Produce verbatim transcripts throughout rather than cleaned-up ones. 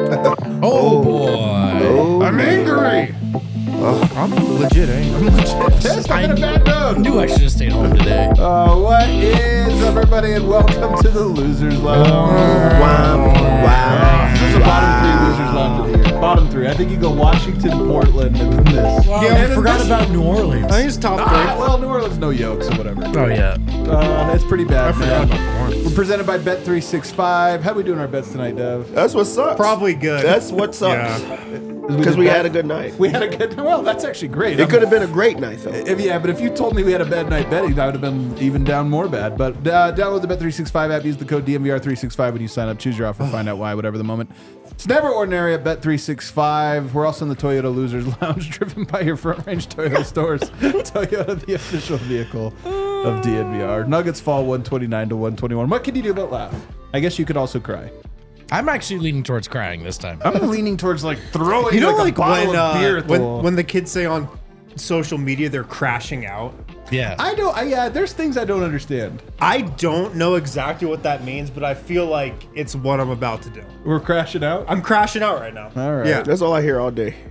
Oh, boy. Oh, I'm angry. I'm legit angry. Yes, I'm in a bad I mood. knew I should have stayed home today. Uh, what is up, everybody, and welcome to the Losers Lounge. Wow. Wow. This is the bottom three Losers Lounge of the year. Bottom three. I think you go Washington, Portland, and then this. Wow. And Yeah, then I forgot this- about New Orleans. I think it's top Ah, three. well, New Orleans, no yolks or whatever. Oh, yeah. Uh, it's pretty bad, I forgot man. about Lawrence. We're presented by Bet three sixty-five. How we doing our bets tonight, Dev? That's what sucks. Probably good. That's what sucks. Yeah. Because we had a good night. We had a good. Well, that's actually great. It could have been a great night, though. If, yeah, but if you told me we had a bad night betting, I would have been even down more bad. But uh, download the Bet three sixty-five app. Use the code D M V R three sixty-five when you sign up. Choose your offer. Find out why. Whatever the moment. It's never ordinary at Bet three sixty-five. We're also in the Toyota Losers Lounge, driven by your front range Toyota stores. Toyota, the official vehicle of D N V R. Nuggets fall one twenty-nine to one twenty-one. What can you do but laugh? I guess you could also cry. I'm actually leaning towards crying this time. I'm leaning towards like throwing You know, like, like, a bottle when, of beer uh, at the when wall. when the kids say on social media they're crashing out. Yeah. I don't. I, yeah, there's things I don't understand. I don't know exactly what that means, but I feel like it's what I'm about to do. We're crashing out. I'm crashing out right now. All right. Yeah. That's all I hear all day.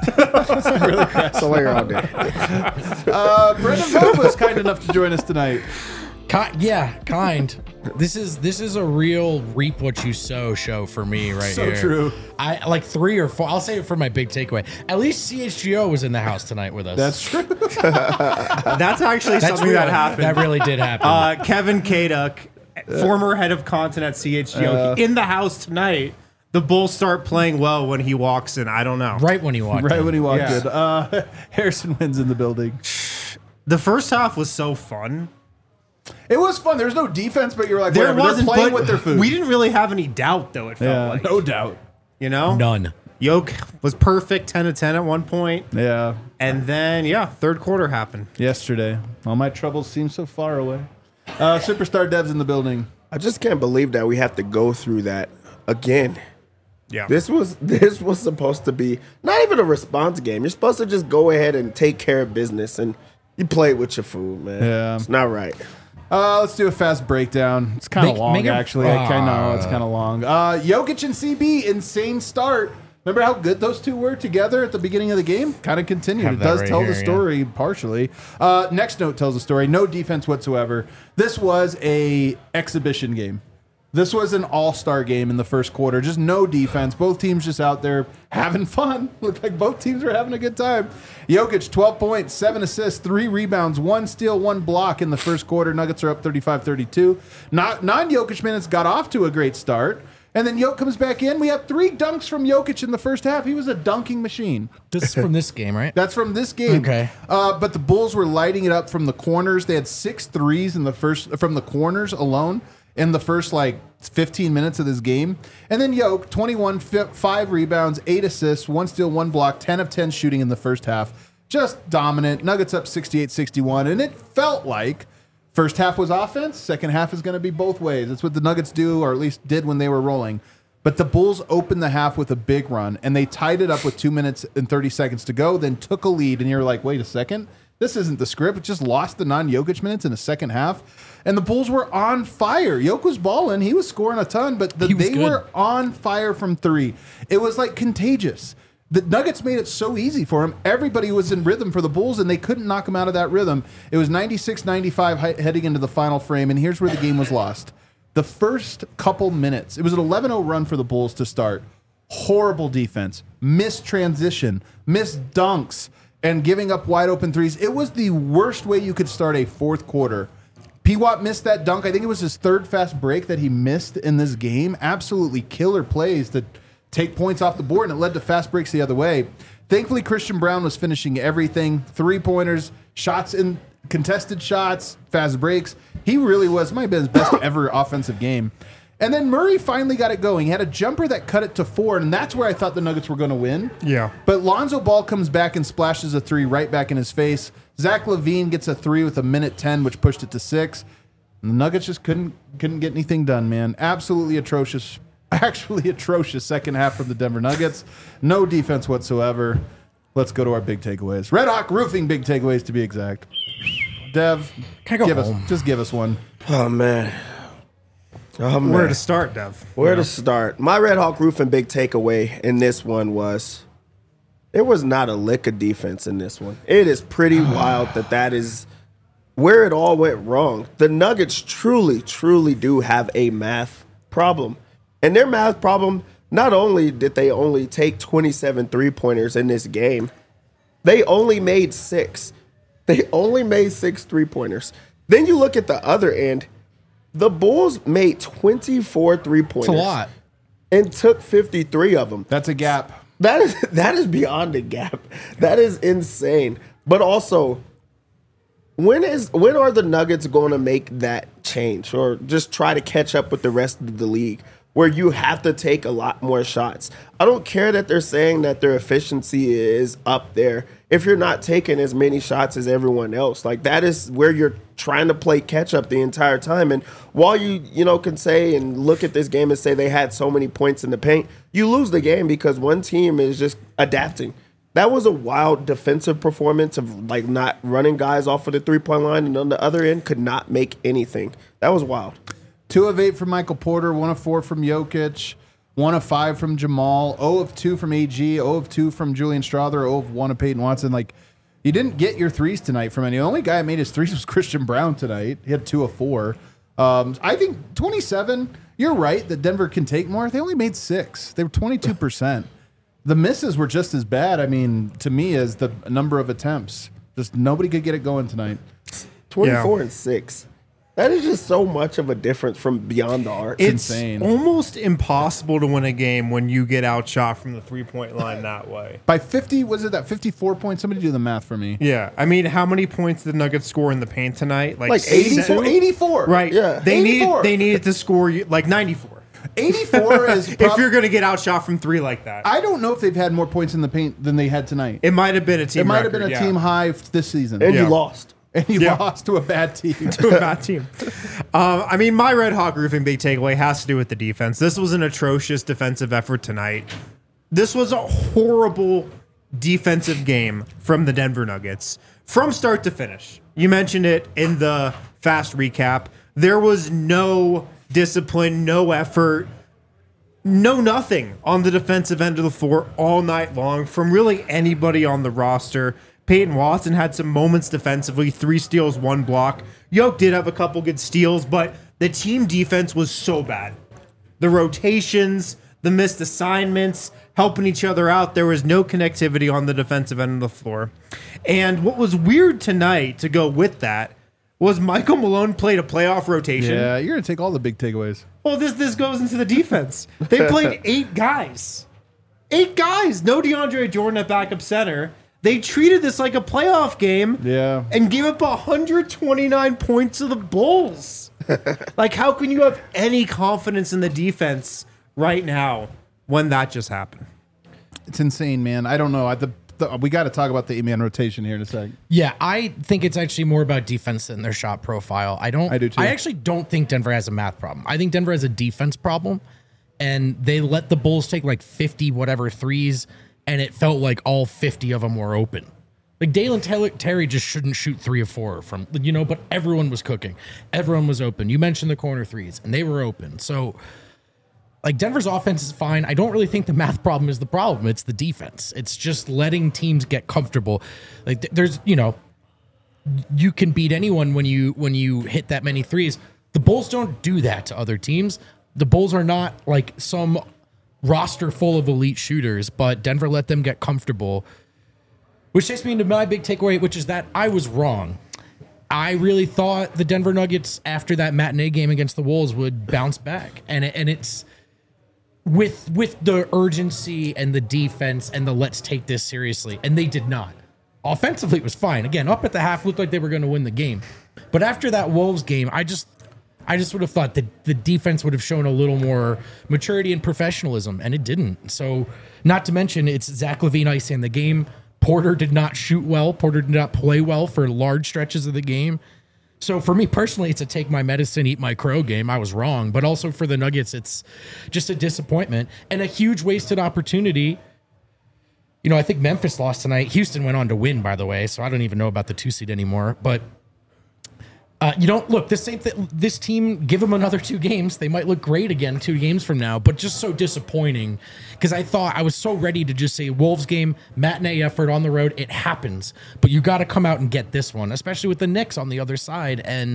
That's all I hear all day. Uh, Brendan Vogt was kind enough to join us tonight. Ki- yeah, kind. This is this is a real reap what you sow show for me right So here. true. I like three or four. I'll say it for my big takeaway. At least C H G O was in the house tonight with us. That's true. That's actually That's something real. that happened. That really did happen. uh, Kevin Kaduk, former head of content at C H G O, Uh, in the house tonight. The Bulls start playing well when he walks in. I don't know. right when he walked Right in. when he walked Yeah. in. Uh, Harrison wins in the building. The first half was so fun. It was fun. There was no defense, but you were like, There whatever. wasn't, They're playing but with their food. we didn't really have any doubt, though. It felt Yeah, like no doubt. you know, None. Yoke was perfect, ten to ten at one point, Yeah. and then yeah, third quarter happened. Yesterday, all my troubles seem so far away. Uh, Superstar Dev's in the building. I just can't believe that we have to go through that again. Yeah, This was this was supposed to be not even a response game. You're supposed to just go ahead and take care of business, and you play with your food, man. Yeah. It's not right. Uh, let's do a fast breakdown. It's kind of Make- long, make it- actually. I kind of know it's Ah. kind of long. Uh, Jokic and C B, insane start. Remember how good those two were together at the beginning of the game? Kind of continued. Have It that does right tell here, the yeah. story partially. Uh, next note tells the story. No defense whatsoever. This was a exhibition game. This was an all-star game in the first quarter. Just no defense. Both teams just out there having fun. Looked like both teams were having a good time. Jokic, twelve points, seven assists, three rebounds, one steal, one block in the first quarter. Nuggets are up thirty-five thirty-two. Not, non-Jokic minutes got off to a great start. And then Jokic comes back in. We have three dunks from Jokic in the first half. He was a dunking machine. This is from this game, right? That's from this game. Okay. Uh, but the Bulls were lighting it up from the corners. They had six threes in the first from the corners alone in the first like fifteen minutes of this game. And then Yoke, twenty-one, fi- five rebounds, eight assists, one steal, one block, ten of ten shooting in the first half. Just dominant. Nuggets up sixty-eight sixty-one. And it felt like first half was offense. Second half is going to be both ways. That's what the Nuggets do, or at least did when they were rolling. But the Bulls opened the half with a big run, and they tied it up with two minutes and thirty seconds to go, then took a lead, and you're like, wait a second. This isn't the script. It just lost the non-Jokic minutes in the second half. And the Bulls were on fire. Jokic was balling. He was scoring a ton, but the, He was they good. were on fire from three. It was like contagious. The Nuggets made it so easy for him. Everybody was in rhythm for the Bulls, and they couldn't knock him out of that rhythm. It was ninety-six ninety-five he- heading into the final frame, and here's where the game was lost. The first couple minutes, it was an eleven oh run for the Bulls to start. Horrible defense, missed transition, missed dunks, and giving up wide open threes. It was the worst way you could start a fourth quarter. P-Watt missed that dunk. I think it was his third fast break that he missed in this game. Absolutely killer plays to take points off the board, and it led to fast breaks the other way. Thankfully, Christian Brown was finishing everything. Three-pointers, shots in contested shots, fast breaks. He really was, might have been his best ever offensive game. And then Murray finally got it going. He had a jumper that cut it to four, and that's where I thought the Nuggets were going to win. Yeah. But Lonzo Ball comes back and splashes a three right back in his face. Zach LaVine gets a three with a minute ten, which pushed it to six. And the Nuggets just couldn't couldn't get anything done, man. Absolutely atrocious, actually atrocious second half from the Denver Nuggets. No defense whatsoever. Let's go to our big takeaways. Red Hawk Roofing big takeaways to be exact. Dev, Can I go give home? us just give us one. Oh man, Oh, man. Where to start, Dev? Where to start? My Red Hawk Roofing big takeaway in this one was there was not a lick of defense in this one. It is pretty wild that that is where it all went wrong. The Nuggets truly, truly do have a math problem. And their math problem, not only did they only take twenty-seven three-pointers in this game, they only made six. They only made six three-pointers. Then you look at the other end. The Bulls made twenty-four three-pointers. It's a lot. And took fifty-three of them. That's a gap. That is that is beyond a gap. That is insane. But also, when is when are the Nuggets going to make that change or just try to catch up with the rest of the league where you have to take a lot more shots? I don't care that they're saying that their efficiency is up there if you're not taking as many shots as everyone else. Like, that is where you're trying to play catch up the entire time. And while you, you know, can say and look at this game and say they had so many points in the paint, you lose the game because one team is just adapting. That was a wild defensive performance of, like, not running guys off of the three-point line, and on the other end could not make anything. That was wild. Two of eight from Michael Porter, one of four from Jokic, one of five from Jamal, zero of two from A G, zero of two from Julian Strawther, zero of one of Peyton Watson. Like, you didn't get your threes tonight from any. The only guy that made his threes was Christian Brown tonight. He had two of four. Um, I think twenty-seven, you're right that Denver can take more. They only made six. They were twenty-two percent. The misses were just as bad, I mean, to me, as the number of attempts. Just nobody could get it going tonight. twenty-four Yeah. and six. That is just so much of a difference from beyond the arc. It's insane. almost impossible to win a game when you get outshot from the three-point line that way. By fifty, was it that fifty-four points? Somebody do the math for me. Yeah, I mean, how many points did the Nuggets score in the paint tonight? Like six? eighty-four. eighty-four. Right. Yeah. They eighty-four. needed they needed to score you- like ninety-four. eighty-four is If prob- you're going to get outshot from three like that, I don't know if they've had more points in the paint than they had tonight. it might have been a team. It might have record, been a yeah. team high f- this season. and Yeah. you lost. And you Yeah. lost to a bad team. to a bad team. Um, I mean, my Red Hawk Roofing big takeaway has to do with the defense. This was an atrocious defensive effort tonight. This was a horrible defensive game from the Denver Nuggets from start to finish. You mentioned it in the fast recap. There was no discipline, no effort, no nothing on the defensive end of the floor all night long from really anybody on the roster. Peyton Watson had some moments defensively, three steals, one block. Yoke did have a couple good steals, but the team defense was so bad. The rotations, the missed assignments, helping each other out. There was no connectivity on the defensive end of the floor. And what was weird tonight to go with that was Michael Malone played a playoff rotation. Yeah, you're going to take all the big takeaways. Well, this this goes into the defense. They played eight guys. Eight guys. No DeAndre Jordan at backup center. They treated this like a playoff game. Yeah. And gave up one hundred twenty-nine points to the Bulls. Like, how can you have any confidence in the defense right now when that just happened? It's insane, man. I don't know. I, the, the, we got to talk about the eight-man rotation here in a second. Yeah, I think it's actually more about defense than their shot profile. I don't. I do too. I actually don't think Denver has a math problem. I think Denver has a defense problem, and they let the Bulls take like fifty whatever threes, and it felt like all fifty of them were open. Like Dalen Taylor, Terry just shouldn't shoot three or four from, you know, but everyone was cooking. Everyone was open. You mentioned the corner threes, and they were open. So, like, Denver's offense is fine. I don't really think the math problem is the problem. It's the defense. It's just letting teams get comfortable. Like, th- there's, you know, you can beat anyone when you when you hit that many threes. The Bulls don't do that to other teams. The Bulls are not like some roster full of elite shooters, but Denver let them get comfortable. Which takes me into my big takeaway, which is that I was wrong. I really thought the Denver Nuggets, after that matinee game against the Wolves, would bounce back. And it, and it's with with the urgency and the defense and the let's take this seriously. And they did not. Offensively, it was fine. Again, up at the half, looked like they were going to win the game. But after that Wolves game, I just I just would have thought that the defense would have shown a little more maturity and professionalism, and it didn't. So, not to mention, it's Zach LaVine icing the game. Porter did not shoot well. Porter did not play well for large stretches of the game. So for me personally, it's a take my medicine, eat my crow game. I was wrong. But also for the Nuggets, it's just a disappointment and a huge wasted opportunity. You know, I think Memphis lost tonight. Houston went on to win, by the way, so I don't even know about the two seed anymore. But Uh, you don't look this same thing. This team, give them another two games, they might look great again two games from now. But just so disappointing because I thought I was so ready to just say Wolves game, matinee effort on the road. It happens, but you got to come out and get this one, especially with the Knicks on the other side. And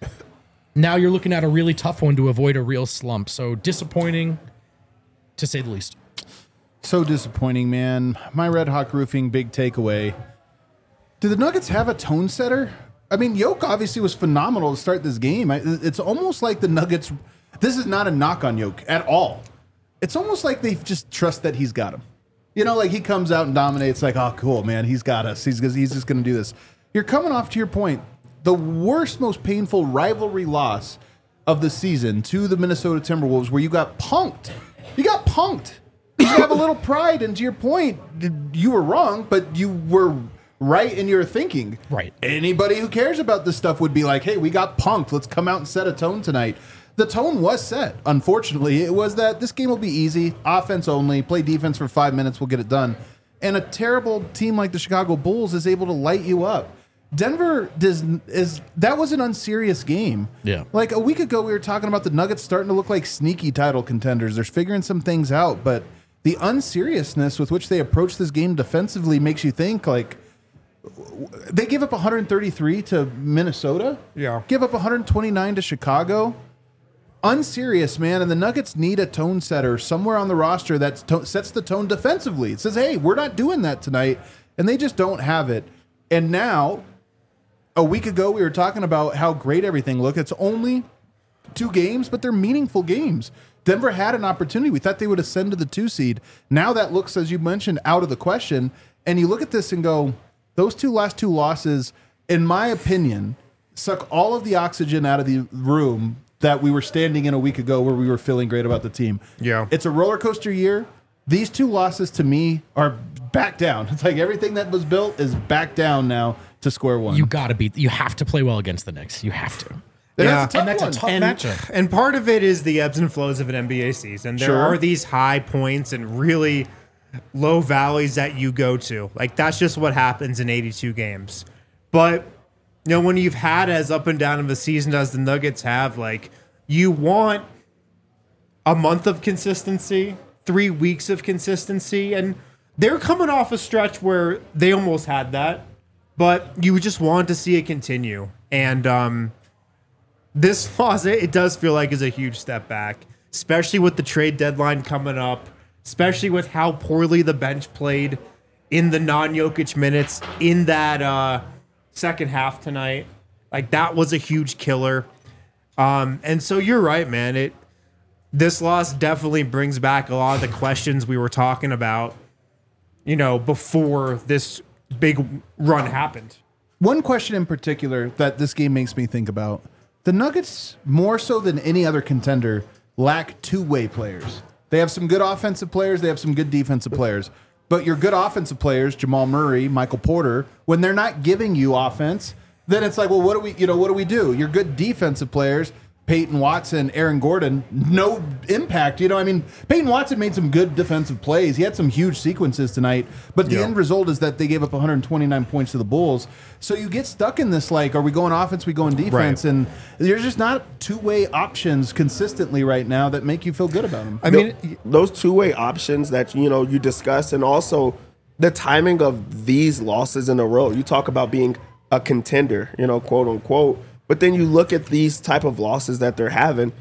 now you're looking at a really tough one to avoid a real slump. So disappointing, to say the least. So disappointing, man. My Red Hawk Roofing big takeaway. Do the Nuggets have a tone setter? I mean, Yoke obviously was phenomenal to start this game. I- It's almost like the Nuggets. This is not a knock on Yoke at all. It's almost like they just trust that he's got him. You know, like he comes out and dominates. Like, oh, cool, man, he's got us. He's he's just going to do this. You're coming off to your point. The worst, most painful rivalry loss of the season to the Minnesota Timberwolves, where you got punked. You got punked. You have a little pride, and to your point, you were wrong, but you were right in your thinking. Right. Anybody who cares about this stuff would be like, hey, we got punked. Let's come out and set a tone tonight. The tone was set. Unfortunately, it was that this game will be easy, offense only, play defense for five minutes, we'll get it done. And a terrible team like the Chicago Bulls is able to light you up. Denver does is that was an unserious game. Yeah. Like a week ago, we were talking about the Nuggets starting to look like sneaky title contenders. They're figuring some things out, but the unseriousness with which they approach this game defensively makes you think like they give up one thirty-three to Minnesota. Yeah. Give up one twenty-nine to Chicago. Unserious, man. And the Nuggets need a tone setter somewhere on the roster that to- sets the tone defensively. It says, hey, we're not doing that tonight. And they just don't have it. And now, a week ago, we were talking about how great everything looked. It's only two games, but they're meaningful games. Denver had an opportunity. We thought they would ascend to the two seed. Now that looks, as you mentioned, out of the question. And you look at this and go, those two last two losses, in my opinion, suck all of the oxygen out of the room that we were standing in a week ago where we were feeling great about the team. Yeah. It's a roller coaster year. These two losses to me are back down. It's like everything that was built is back down now to square one. You got to beat. You have to play well against the Knicks. You have to. And Yeah. that's a tough And that's a one. tough and, matchup. and part of it is the ebbs and flows of an N B A season. There Sure. are these high points and really low valleys that you go to. Like that's just what happens in eighty-two games. But you know, when you've had as up and down of a season as the Nuggets have, like you want a month of consistency, three weeks of consistency, and they're coming off a stretch where they almost had that, but you just want to see it continue. And um this loss, it, it does feel like is a huge step back, especially with the trade deadline coming up, especially with how poorly the bench played in the non-Jokic minutes in that uh, second half tonight. Like that was a huge killer. Um, and so you're right, man. It this loss definitely brings back a lot of the questions we were talking about, you know, before this big run happened. One question in particular that this game makes me think about. The Nuggets, more so than any other contender, lack two-way players. They have some good offensive players. They have some good defensive players. But your good offensive players, Jamal Murray, Michael Porter, when they're not giving you offense, then it's like, well, what do we, you know, what do we do? Your good defensive players, Peyton Watson, Aaron Gordon, no impact. You know, I mean, Peyton Watson made some good defensive plays. He had some huge sequences tonight, but the Yeah. end result is that they gave up one twenty-nine points to the Bulls. So you get stuck in this, like, are we going offense, we going defense? Right. And there's just not two-way options consistently right now that make you feel good about them. I mean, Those two-way options that you know you discuss, and also the timing of these losses in a row. You talk about being a contender, you know, quote unquote, but then you look at these type of losses that they're having.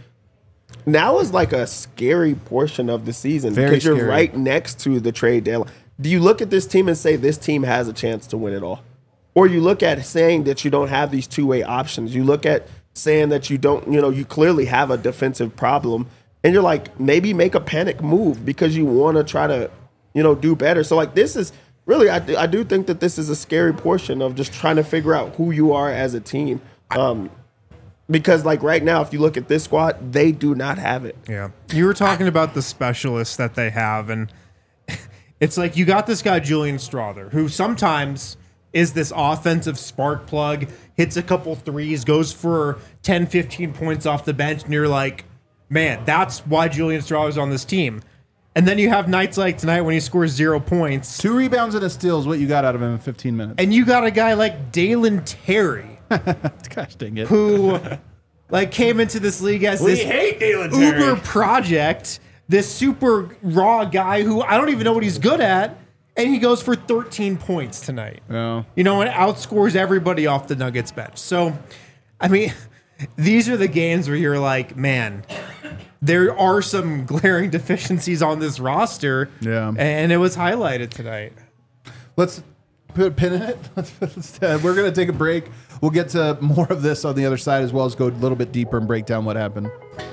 Now is like a scary portion of the season Very because you're scary. right next to the trade deadline. Do you look at this team and say this team has a chance to win it all? Or you look at saying that you don't have these two-way options. You look at saying that you don't, you know, you clearly have a defensive problem, and you're like, maybe make a panic move because you want to try to, you know, do better. So like this is really, I, I do think that this is a scary portion of just trying to figure out who you are as a team. Um, because like right now, if you look at this squad, they do not have it. yeah. You were talking about the specialists that they have, and it's like you got this guy, Julian Strother, who sometimes is this offensive spark plug, hits a couple threes, goes for ten, fifteen points off the bench, and you're like, man, that's why Julian Strother's on this team. And then you have nights like tonight when he scores zero points, Two rebounds and a steal is what you got out of him in fifteen minutes. and you got a guy like Dalen Terry, Gosh dang it. who like came into this league as We this hate Dalen Terry. uber project, this super raw guy who I don't even know what he's good at, and he goes for thirteen points tonight. Yeah. You know, and outscores everybody off the Nuggets bench. So, I mean, these are the games where you're like, man, there are some glaring deficiencies on this roster. Yeah. And it was highlighted tonight. Let's put a pin in it. Let's, let's, uh, we're going to take a break. We'll get to more of this on the other side as well as go a little bit deeper and break down what happened.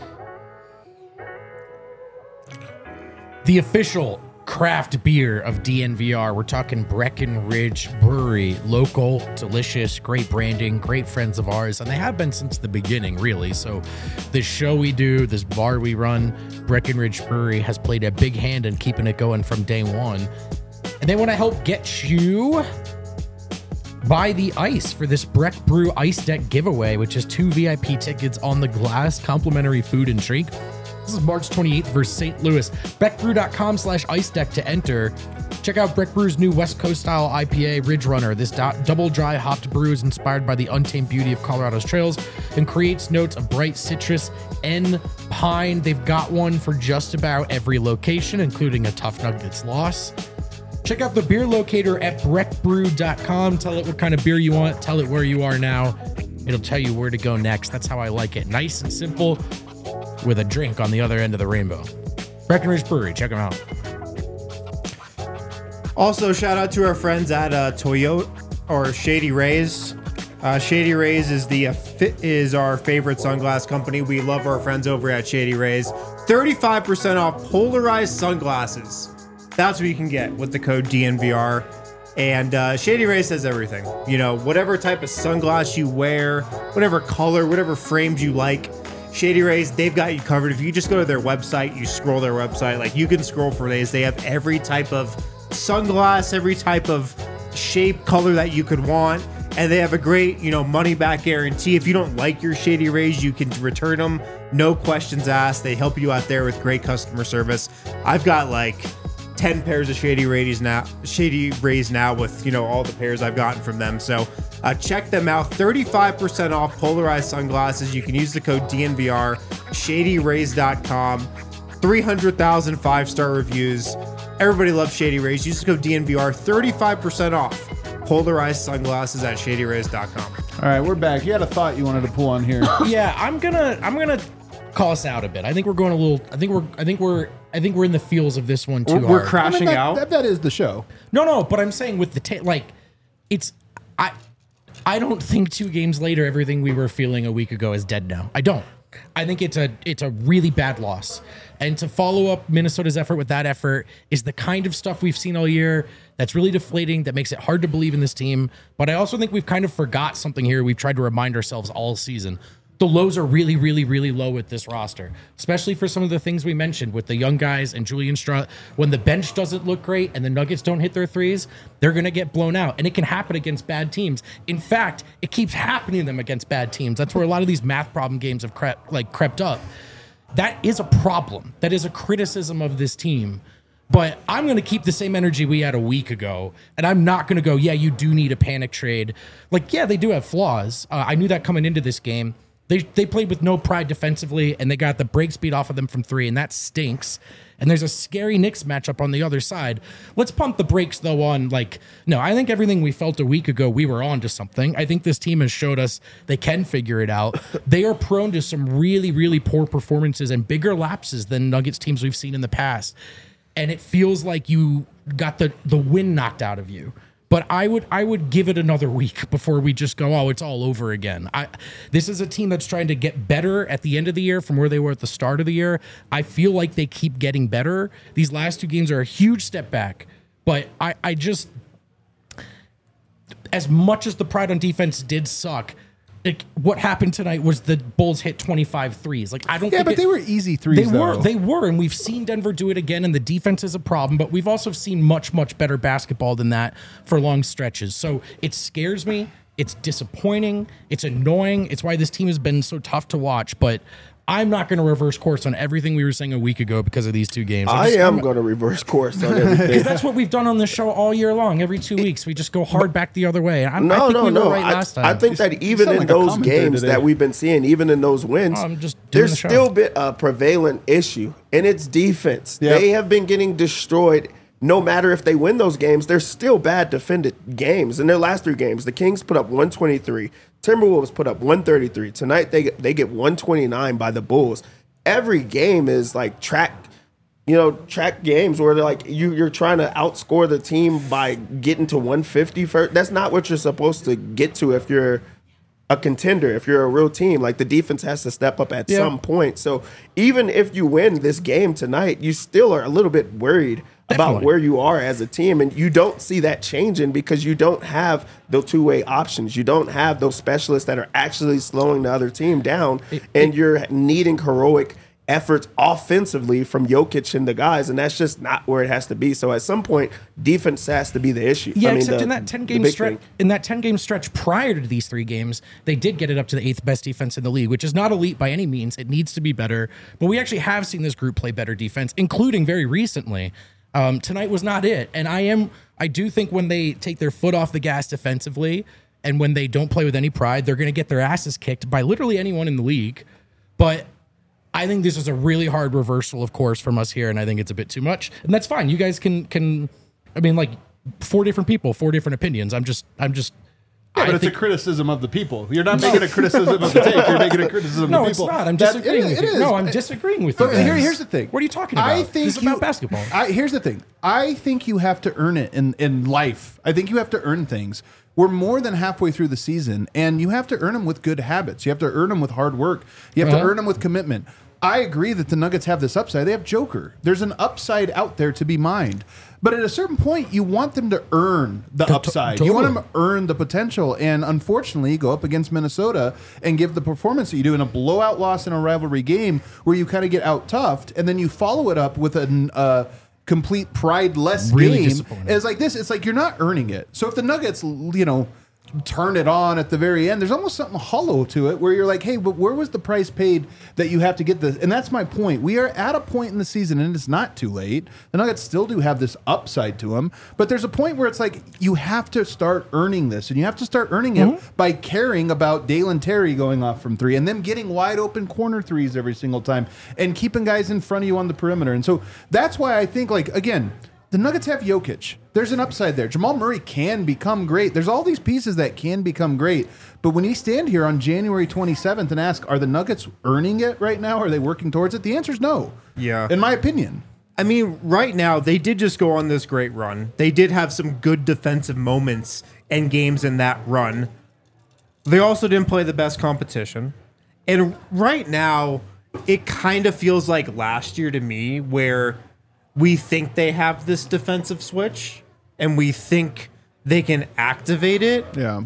The official craft beer of D N V R. We're talking Breckenridge Brewery. Local, delicious, great branding, great friends of ours. And they have been since the beginning, really. So this show we do, this bar we run, Breckenridge Brewery has played a big hand in keeping it going from day one. And they want to help get you buy the ice for this Breck Brew Ice Deck giveaway, which is two V I P tickets on the glass, complimentary food and drink. This is March twenty-eighth versus Saint Louis. Breckbrew.com slash ice deck to enter. Check out Breck Brew's new West Coast style I P A, Ridge Runner. This do- double dry hopped brew is inspired by the untamed beauty of Colorado's trails and creates notes of bright citrus and pine. They've got one for just about every location, including a Tough Nuggets loss. Check out the beer locator at breck brew dot com. Tell it what kind of beer you want. Tell it where you are now. It'll tell you where to go next. That's how I like it. Nice and simple with a drink on the other end of the rainbow. Breckenridge Brewery. Check them out. Also, shout out to our friends at uh, Toyota or Shady Rays. Uh, Shady Rays is the uh, fit is our favorite sunglass company. We love our friends over at Shady Rays. thirty-five percent off polarized sunglasses. That's what you can get with the code D N V R. And uh, Shady Rays has everything. You know, whatever type of sunglass you wear, whatever color, whatever frames you like, Shady Rays, they've got you covered. If you just go to their website, you scroll their website, like you can scroll for days. They have every type of sunglass, every type of shape, color that you could want. And they have a great, you know, money back guarantee. If you don't like your Shady Rays, you can return them. No questions asked. They help you out there with great customer service. I've got like ten pairs of Shady Rays now, Shady Rays now with, you know, all the pairs I've gotten from them. So uh, check them out. thirty-five percent off polarized sunglasses. You can use the code D N V R, shady rays dot com. three hundred thousand five-star reviews. Everybody loves Shady Rays. Use the code D N V R, thirty-five percent off polarized sunglasses at shady rays dot com. All right, we're back. You had a thought you wanted to pull on here. Yeah, I'm gonna I'm gonna call us out a bit. I think we're going a little. I think we're. I think we're. I think we're in the feels of this one too We're, hard. we're crashing I mean, that, out. That, that is the show. No, no, but I'm saying with the ta- like, it's I. I don't think two games later everything we were feeling a week ago is dead now. I don't. I think it's a it's a really bad loss. And to follow up Minnesota's effort with that effort is the kind of stuff we've seen all year that's really deflating, that makes it hard to believe in this team. But I also think we've kind of forgot something here we've tried to remind ourselves all season. The lows are really, really, really low with this roster, especially for some of the things we mentioned with the young guys and Julian Strauss. When the bench doesn't look great and the Nuggets don't hit their threes, they're going to get blown out. And it can happen against bad teams. In fact, it keeps happening to them against bad teams. That's where a lot of these math problem games have crept, like crept up. That is a problem. That is a criticism of this team. But I'm going to keep the same energy we had a week ago. And I'm not going to go, yeah, you do need a panic trade. Like, yeah, they do have flaws. Uh, I knew that coming into this game. They they played with no pride defensively, and they got the break speed off of them from three, and that stinks. And there's a scary Knicks matchup on the other side. Let's pump the brakes, though, on, like, no, I think everything we felt a week ago, we were on to something. I think this team has showed us they can figure it out. They are prone to some really, really poor performances and bigger lapses than Nuggets teams we've seen in the past. And it feels like you got the, the wind knocked out of you. But I would I would give it another week before we just go, oh, it's all over again. I this is a team that's trying to get better at the end of the year from where they were at the start of the year. I feel like they keep getting better. These last two games are a huge step back. But I, I just, as much as the pride on defense did suck, like, what happened tonight was the Bulls hit twenty-five threes. Like, I don't Yeah, think but it, they were easy threes, They were, though. they were, and we've seen Denver do it again, and the defense is a problem, but we've also seen much, much better basketball than that for long stretches. So it scares me. It's disappointing. It's annoying. It's why this team has been so tough to watch, but I'm not going to reverse course on everything we were saying a week ago because of these two games. I just, am going to reverse course on everything. Because that's what we've done on this show all year long. Every two weeks, we just go hard back the other way. I'm, No, I think no, we no. were right I, last time. I think that even sound in like a those commentator games today. that we've been seeing, even in those wins, Oh, I'm just doing there's the show. still been a prevalent issue, and it's defense. Yep. They have been getting destroyed. No matter if they win those games, they're still bad defended games. In their last three games, the Kings put up one twenty-three, Timberwolves put up one thirty-three. Tonight, they get, they get one twenty-nine by the Bulls. Every game is like track, you know, track games where they're like you, you're trying to outscore the team by getting to one fifty first. That's not what you're supposed to get to if you're a contender, if you're a real team. Like, the defense has to step up at Yeah. some point. So even if you win this game tonight, you still are a little bit worried about Definitely. where you are as a team, and you don't see that changing because you don't have the two-way options. You don't have those specialists that are actually slowing the other team down, and you're needing heroic efforts offensively from Jokic and the guys, and that's just not where it has to be. So at some point, defense has to be the issue. Yeah, I mean, except the- in that ten the game big stretch, thing. in that ten game stretch prior to these three games, they did get it up to the eighth best defense in the league, which is not elite by any means. It needs to be better, but we actually have seen this group play better defense, including very recently. Um, tonight was not it, and I am, I do think when they take their foot off the gas defensively, and when they don't play with any pride, they're going to get their asses kicked by literally anyone in the league. But I think this is a really hard reversal of course from us here, and I think it's a bit too much. And that's fine. You guys can can I mean, like, four different people, four different opinions. I'm just I'm just Yeah, I but it's think- a criticism of the people. You're not making a criticism of the take. You're making a criticism No, of the it's people. not. I'm That- disagreeing it- with it you. is. No, I'm disagreeing with you. But here, guys. here's the thing. What are you talking about? I think this is you, about basketball. I, here's the thing. I think you have to earn it in, in life. I think you have to earn things. We're more than halfway through the season, and you have to earn them with good habits. You have to earn them with hard work. You have Uh-huh. to earn them with commitment. I agree that the Nuggets have this upside. They have Joker. There's an upside out there to be mined. But at a certain point, you want them to earn the upside. You want them to earn the potential. And unfortunately, you go up against Minnesota and give the performance that you do in a blowout loss in a rivalry game where you kind of get out toughed, and then you follow it up with a uh, complete pride-less Really game. disappointing. It's like this. It's like you're not earning it. So if the Nuggets, you know, turn it on at the very end, there's almost something hollow to it where you're like, hey, but where was the price paid that you have to get this? And that's my point. We are at a point in the season, and it's not too late. The Nuggets still do have this upside to them, but there's a point where it's like you have to start earning this, and you have to start earning it by caring about Dalen Terry going off from three and them getting wide open corner threes every single time and keeping guys in front of you on the perimeter. And so that's why I think, like, again, the Nuggets have Jokic. There's an upside there. Jamal Murray can become great. There's all these pieces that can become great. But when you stand here on January twenty-seventh and ask, are the Nuggets earning it right now? Are they working towards it? The answer is no. Yeah. In my opinion. I mean, right now, they did just go on this great run. They did have some good defensive moments and games in that run. They also didn't play the best competition. And right now, it kind of feels like last year to me, where we think they have this defensive switch and we think they can activate it. Yeah.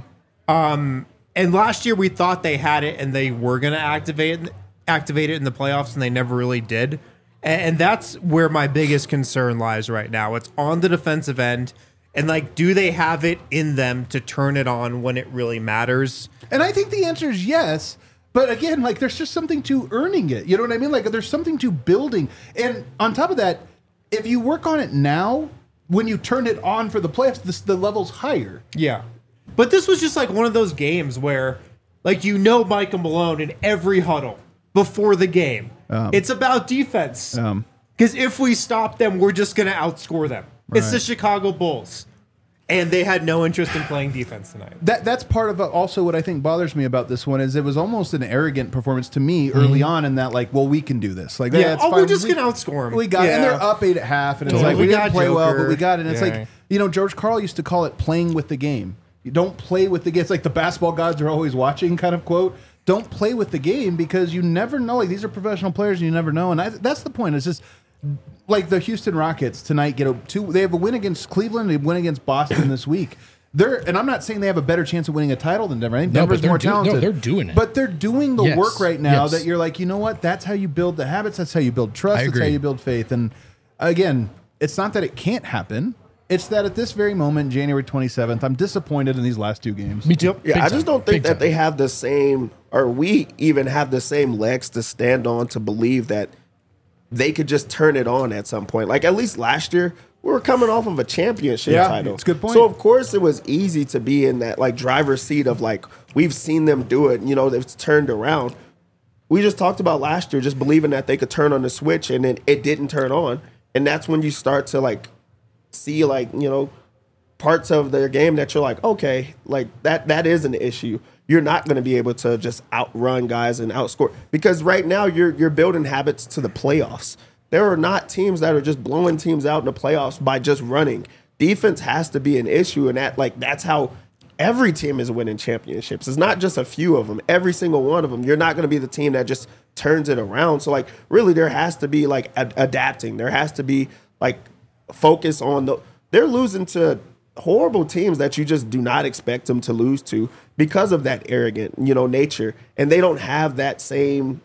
And last year we thought they had it and they were going to activate it, activate it in the playoffs, and they never really did. And, and that's where my biggest concern lies right now. It's on the defensive end. And, like, do they have it in them to turn it on when it really matters? And I think the answer is yes. But again, like, there's just something to earning it. You know what I mean? Like, there's something to building. And on top of that, if you work on it now, when you turn it on for the playoffs, this, the level's higher. Yeah. But this was just like one of those games where, like, you know, Michael Malone in every huddle before the game. Um, it's about defense. Um, Because if we stop them, we're just going to outscore them. It's the Right. Chicago Bulls. And they had no interest in playing defense tonight. That that's part of uh, also what I think bothers me about this one is it was almost an arrogant performance to me early on in that, like, well, we can do this. Like, Yeah, it's oh, fine. we're just We- going to outscore them. We got it. And they're up eight at half, and it's Totally. like we, We didn't got play well, Joker. but we got it. And it's Yeah. like, you know, George Karl used to call it playing with the game. You don't play with the game. It's like the basketball gods are always watching kind of quote. Don't play with the game because you never know. Like, these are professional players, and you never know. And I, that's the point. It's just like the Houston Rockets tonight get a two. They have a win against Cleveland. They win against Boston this week. They're, and I'm not saying they have a better chance of winning a title than Denver. I think No, Denver's but they're more do- no, talented. they're doing it. But they're doing the Yes. work right now Yes. that you're like, you know what? That's how you build the habits. That's how you build trust. I That's how agree. you build faith. And again, it's not that it can't happen. It's that at this very moment, January twenty-seventh, I'm disappointed in these last two games. Me too. Yeah, Big I just time. don't think Big that time. they have the same, or we even have the same legs to stand on to believe that they could just turn it on at some point. Like at least last year, we were coming off of a championship Yeah, title. it's a good point. So of course it was easy to be in that like driver's seat of like we've seen them do it. You know, it's turned around. We just talked about last year, just believing that they could turn on the switch, and then it didn't turn on, and that's when you start to like see like you know parts of their game that you're like, okay, like that that is an issue. You're not going to be able to just outrun guys and outscore because right now you're you're building habits to the playoffs. There are not teams that are just blowing teams out in the playoffs by just running. Defense has to be an issue, and that like that's how every team is winning championships. It's not just a few of them. Every single one of them. You're not going to be the team that just turns it around. So like really, there has to be like ad- adapting. There has to be like focus on the. They're losing to horrible teams that you just do not expect them to lose to because of that arrogant, you know, nature, and they don't have that same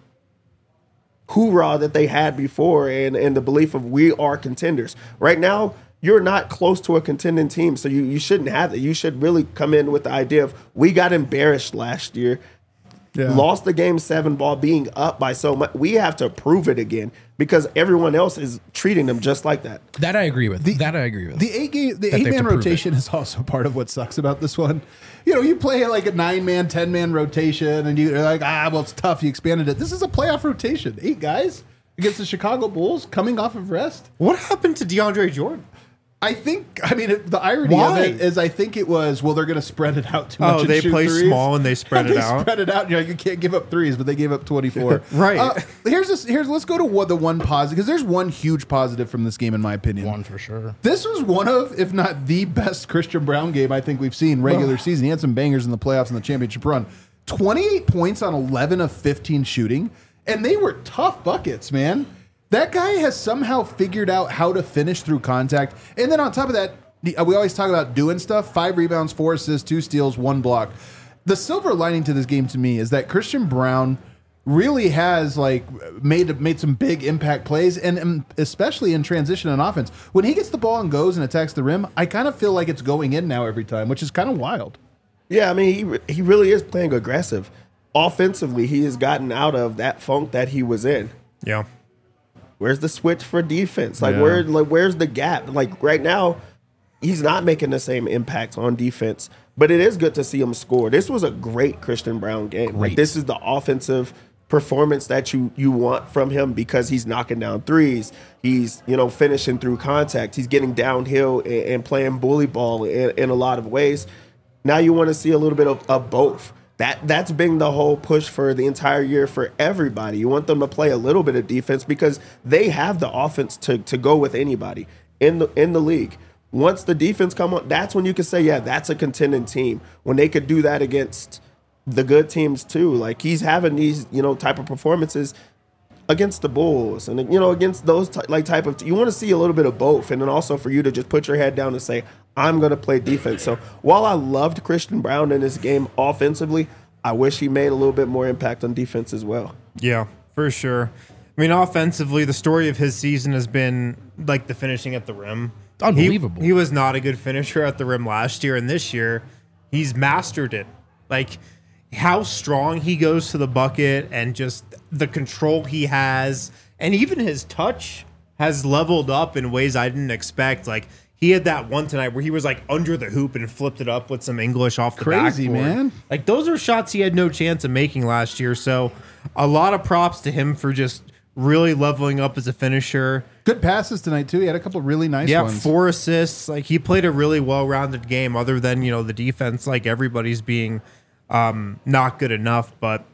hoorah that they had before and, and the belief of we are contenders. Right now, you're not close to a contending team, so you, you shouldn't have that. You should really come in with the idea of we got embarrassed last year, Yeah. lost the game seven ball being up by so much. We have to prove it again because everyone else is treating them just like that. That I agree with. that I agree with. The eight game, the That they eight have man to prove rotation is also part of what sucks about this one. You know, you play like a nine man, ten man rotation, and you're like, ah, well, it's tough. You expanded it. This is a playoff rotation. Eight guys against the Chicago Bulls coming off of rest. What happened to DeAndre Jordan? I think, I mean, it, the irony Why? of it is I think it was, well, they're going to spread it out too much. Oh, and they shoot play threes. small and they spread they it out. spread it out. And you're like, you can't give up threes, but they gave up twenty-four. Right. Uh, here's this, here's, let's go to what the one positive, because there's one huge positive from this game, in my opinion. One for sure. This was one of, if not the best Christian Brown game I think we've seen regular season. He had some bangers in the playoffs and the championship run. twenty-eight points on eleven of fifteen shooting, and they were tough buckets, man. That guy has somehow figured out how to finish through contact. And then on top of that, we always talk about doing stuff. Five rebounds, four assists, two steals, one block. The silver lining to this game to me is that Christian Brown really has like made made some big impact plays, and, and especially in transition and offense. When he gets the ball and goes and attacks the rim, I kind of feel like it's going in now every time, which is kind of wild. Yeah, I mean, he re- he really is playing aggressive. Offensively, he has gotten out of that funk that he was in. Yeah. Where's the switch for defense? Like Yeah. where like where's the gap? Like right now, he's not making the same impact on defense, but it is good to see him score. This was a great Christian Brown game. Like Great. this is the offensive performance that you you want from him because he's knocking down threes. He's, you know, finishing through contact. He's getting downhill and, and playing bully ball in, in a lot of ways. Now you want to see a little bit of, of both. That that's been the whole push for the entire year for everybody. You want them to play a little bit of defense because they have the offense to to go with anybody in the in the league. Once the defense come on, that's when you can say, yeah, that's a contending team. When they could do that against the good teams too. Like he's having these, you know, type of performances against the Bulls and, you know, against those ty- like type of, you want to see a little bit of both. And then also for you to just put your head down and say, I'm going to play defense. So while I loved Christian Brown in this game offensively, I wish he made a little bit more impact on defense as well. Yeah, for sure. I mean, offensively, the story of his season has been like the finishing at the rim. Unbelievable. He, he was not a good finisher at the rim last year, and this year he's mastered it. Like how strong he goes to the bucket and just the control he has, and even his touch has leveled up in ways I didn't expect. Like he had that one tonight where he was like under the hoop and flipped it up with some English off the Crazy, backboard. man. Like those are shots he had no chance of making last year. So a lot of props to him for just really leveling up as a finisher. Good passes tonight too. He had a couple really nice Yeah, ones. four assists. Like he played a really well-rounded game other than, you know, the defense, like everybody's being um, not good enough. But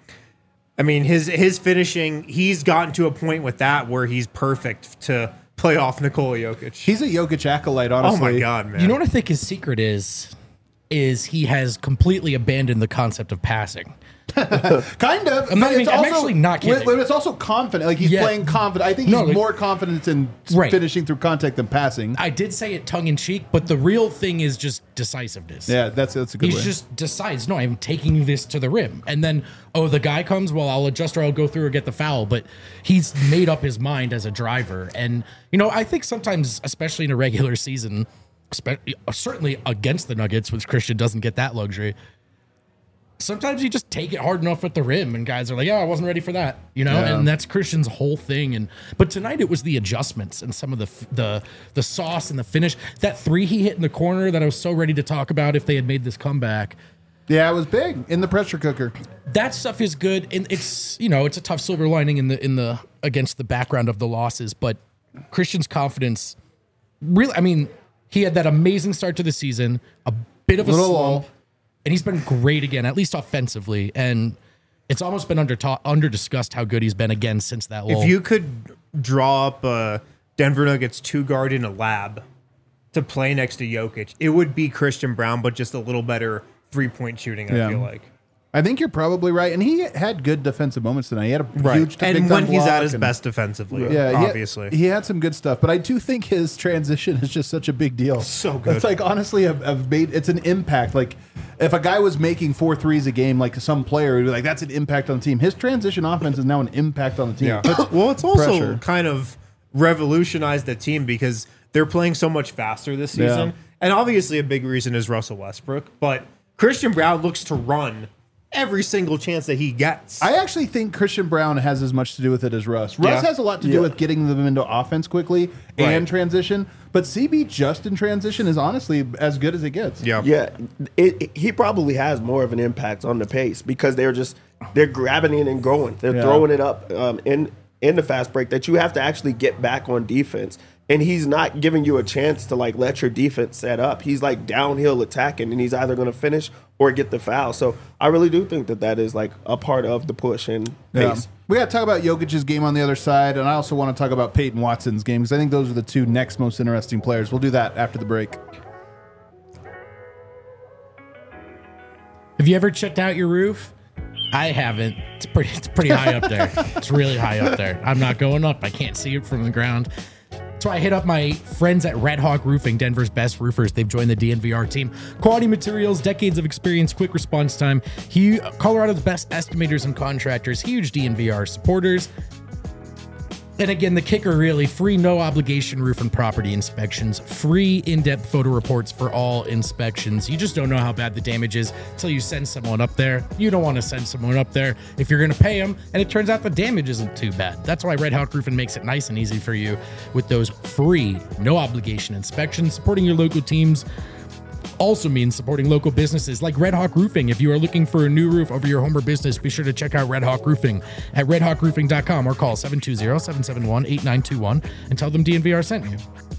I mean, his his finishing, he's gotten to a point with that where he's perfect to play off Nikola Jokic. He's a Jokic acolyte, Oh honestly. my God, man. You know what I think his secret is? Is he has completely abandoned the concept of passing. Kind of. I'm not but even- I'm actually not kidding. But it's also confident. Like he's Yeah. playing confident. I think he's No, like- more confident in Right. finishing through contact than passing. I did say it tongue in cheek, but the real thing is just decisiveness. Yeah, that's that's a good He way. just decides, no, I'm taking this to the rim. And then, oh, the guy comes, well, I'll adjust or I'll go through or get the foul. But he's made up his mind as a driver. And, you know, I think sometimes, especially in a regular season, certainly against the Nuggets, which Christian doesn't get that luxury. Sometimes you just take it hard enough at the rim, and guys are like, "Yeah, I wasn't ready for that," you know. Yeah. And that's Christian's whole thing. And but tonight it was the adjustments and some of the the the sauce and the finish. That three he hit in the corner that I was so ready to talk about if they had made this comeback. Yeah, it was big in the pressure cooker. That stuff is good, and it's you know it's a tough silver lining in the in the against the background of the losses. But Christian's confidence, really, I mean, he had that amazing start to the season, a bit of a Little slump. lull. And he's been great again, at least offensively. And it's almost been under ta- under discussed how good he's been again since that lull. If you could draw up a Denver Nuggets two guard in a lab to play next to Jokic, it would be Christian Brown, but just a little better three point shooting. I Yeah. feel like. I think you're probably right, and he had good defensive moments tonight. He had a huge and big when time he's block at his and- best defensively, Yeah, he had- obviously. he had some good stuff, but I do think his transition is just such a big deal. So good. It's like honestly, I've, I've made it's an impact. Like if a guy was making four threes a game, like some player would be like, "That's an impact on the team." His transition offense is now an impact on the team. Yeah. Puts Well, it's also pressure. kind of revolutionized the team because they're playing so much faster this Yeah. season. And obviously a big reason is Russell Westbrook, but Christian Brown looks to run every single chance that he gets. I actually think Christian Brown has as much to do with it as Russ. Russ Yeah. has a lot to do Yeah. with getting them into offense quickly Right. and transition, but C B just in transition is honestly as good as it gets. yeah. Yeah, it, it- he probably has more of an impact on the pace because they're just they're grabbing it and going. They're Yeah. throwing it up um, in in the fast break that you have to actually get back on defense. And he's not giving you a chance to like let your defense set up. He's like downhill attacking, and he's either going to finish or get the foul. So I really do think that that is like a part of the push and Yeah. pace. We got to talk about Jokic's game on the other side, and I also want to talk about Peyton Watson's game because I think those are the two next most interesting players. We'll do that after the break. Have you ever checked out your roof? I haven't. It's pretty. It's pretty high up there. It's really high up there. I'm not going up. I can't see it from the ground. So I hit up my friends at Red Hawk Roofing, Denver's best roofers. They've joined the D N V R team. Quality materials, decades of experience, quick response time. He, Colorado's best estimators and contractors, huge D N V R supporters. And again, the kicker really, free no obligation roof and property inspections, free in-depth photo reports for all inspections. You just don't know how bad the damage is until you send someone up there. You don't want to send someone up there if you're going to pay them, and it turns out the damage isn't too bad. That's why Red Hawk Roofing makes it nice and easy for you with those free, no obligation inspections. Supporting your local teams also means supporting local businesses like Red Hawk Roofing. If you are looking for a new roof over your home or business, be sure to check out Red Hawk Roofing at red hawk roofing dot com or call seven two zero, seven seven one, eight nine two one and tell them D N V R sent you.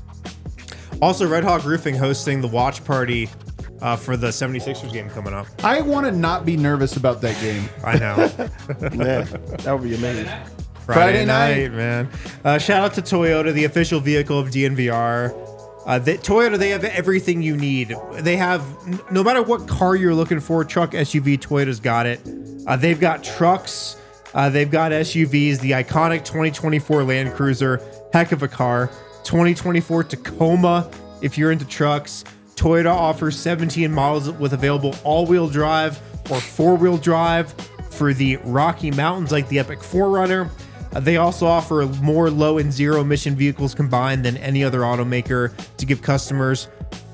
Also, Red Hawk Roofing hosting the watch party uh, for the seventy-sixers game coming up. I want to not be nervous about that game. I know. Man, that would be amazing. Friday, Friday night, night. man. Uh, shout out to Toyota, the official vehicle of D N V R. Uh, they, Toyota, they have everything you need. They have, n- no matter what car you're looking for, truck, S U V, Toyota's got it. Uh, they've got trucks. Uh, they've got S U Vs. The iconic twenty twenty-four Land Cruiser, heck of a car. twenty twenty-four Tacoma, if you're into trucks. Toyota offers seventeen models with available all-wheel drive or four-wheel drive for the Rocky Mountains, like the Epic four runner. Uh, they also offer more low and zero emission vehicles combined than any other automaker to give customers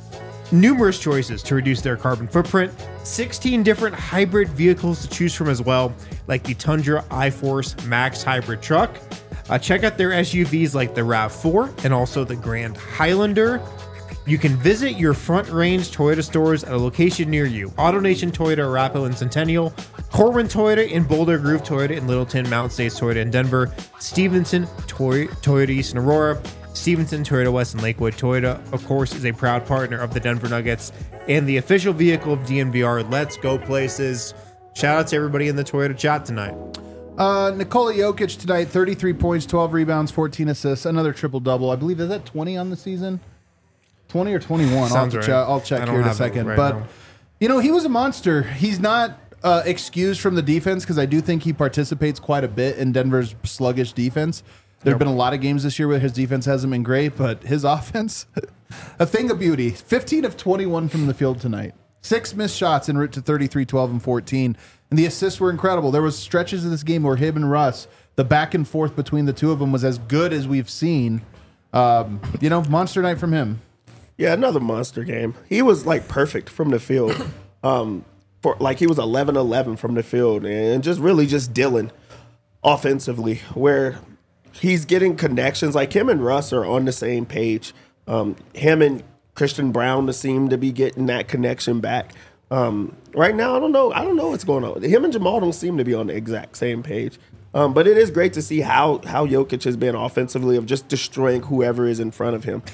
numerous choices to reduce their carbon footprint. sixteen different hybrid vehicles to choose from as well, like the Tundra iForce Max hybrid truck. Uh, check out their S U Vs like the RAV four and also the Grand Highlander. You can visit your Front Range Toyota stores at a location near you. AutoNation Toyota, Arapahoe and Centennial, Corwin Toyota in Boulder, Groove Toyota in Littleton, Mountain States Toyota in Denver, Stevenson Toy- Toyota East in Aurora, Stevenson Toyota West in Lakewood. Toyota, of course, is a proud partner of the Denver Nuggets and the official vehicle of D N V R. Let's go places. Shout out to everybody in the Toyota chat tonight. Uh, Nikola Jokic tonight, thirty-three points, twelve rebounds, fourteen assists, another triple-double. I believe, is that twenty on the season? twenty or twenty-one? I'll, Sounds have to right. check, I'll check I don't here in a have it second. right but, now. you know, he was a monster. He's not uh, excused from the defense because I do think he participates quite a bit in Denver's sluggish defense. There have Yep. been a lot of games this year where his defense hasn't been great, but his offense, a thing of beauty. fifteen of twenty-one from the field tonight. Six missed shots en route to thirty-three, twelve, and fourteen. And the assists were incredible. There was stretches of this game where him and Russ, the back and forth between the two of them was as good as we've seen. Um, you know, monster night from him. Yeah, another monster game. He was like perfect from the field. Um, for like he was eleven eleven from the field and just really just dealing offensively where he's getting connections. Like him and Russ are on the same page. Um, him and Christian Brown seem to be getting that connection back. Um, right now, I don't know. I don't know what's going on. Him and Jamal don't seem to be on the exact same page. Um, but it is great to see how how Jokic has been offensively of just destroying whoever is in front of him.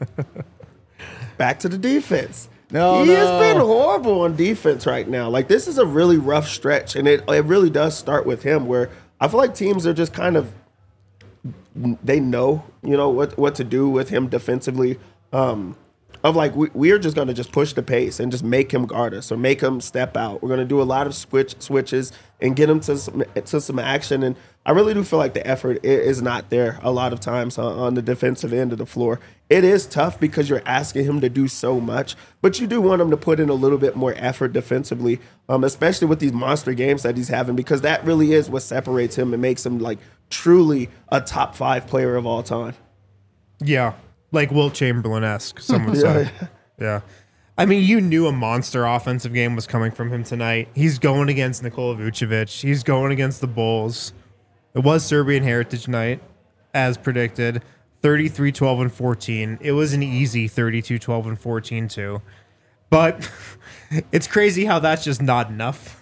Back to the defense. No, he no. has been horrible on defense right now. Like this is a really rough stretch, and it it really does start with him. Where I feel like teams are just kind of they know you know what what to do with him defensively. Um, Of like we, we are just going to just push the pace and just make him guard us or make him step out. We're going to do a lot of switch switches and get him to some, to some action. And I really do feel like the effort is not there a lot of times on, on the defensive end of the floor. It is tough because you're asking him to do so much, but you do want him to put in a little bit more effort defensively, um, especially with these monster games that he's having, because that really is what separates him and makes him like truly a top five player of all time. Yeah. Like Wilt Chamberlain-esque, some would say. Yeah. I mean, you knew a monster offensive game was coming from him tonight. He's going against Nikola Vucevic. He's going against the Bulls. It was Serbian Heritage Night, as predicted. thirty-three, twelve, and fourteen. It was an easy thirty-two, twelve, and fourteen, too. But it's crazy how that's just not enough.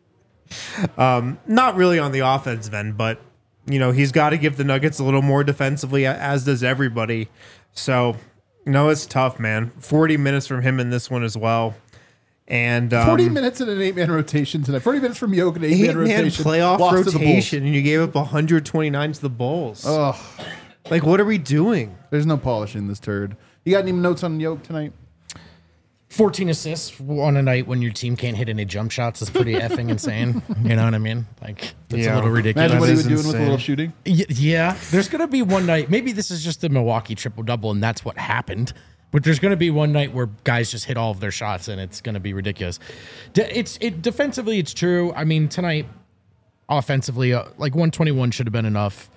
Um, not really on the offensive end, but, you know, he's got to give the Nuggets a little more defensively, as does everybody. So, you know, it's tough, man. forty minutes from him in this one as well. And um, forty minutes in an eight-man rotation tonight. forty minutes from Jokic in an eight-man eight-man rotation. playoff Lost to the Bulls. rotation, and you gave up one hundred twenty-nine to the Bulls. Ugh, Like, what are we doing? there's no polishing this turd. You got any notes on Jokic tonight? fourteen assists on a night when your team can't hit any jump shots is pretty effing insane. You know what I mean? Like, it's Yeah. a little ridiculous. Imagine what he is was doing with a insane. little shooting. Y- yeah, there's going to be one night. Maybe this is just the Milwaukee triple double, and that's what happened. But there's going to be one night where guys just hit all of their shots, and it's going to be ridiculous. De- it's it defensively, it's true. I mean, tonight, offensively, uh, like one twenty-one should have been enough.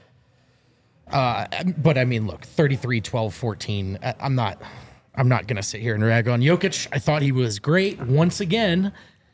Uh, but I mean, look, thirty-three, twelve, fourteen. I- I'm not. I'm not going to sit here and rag on Jokic. I thought he was great once again,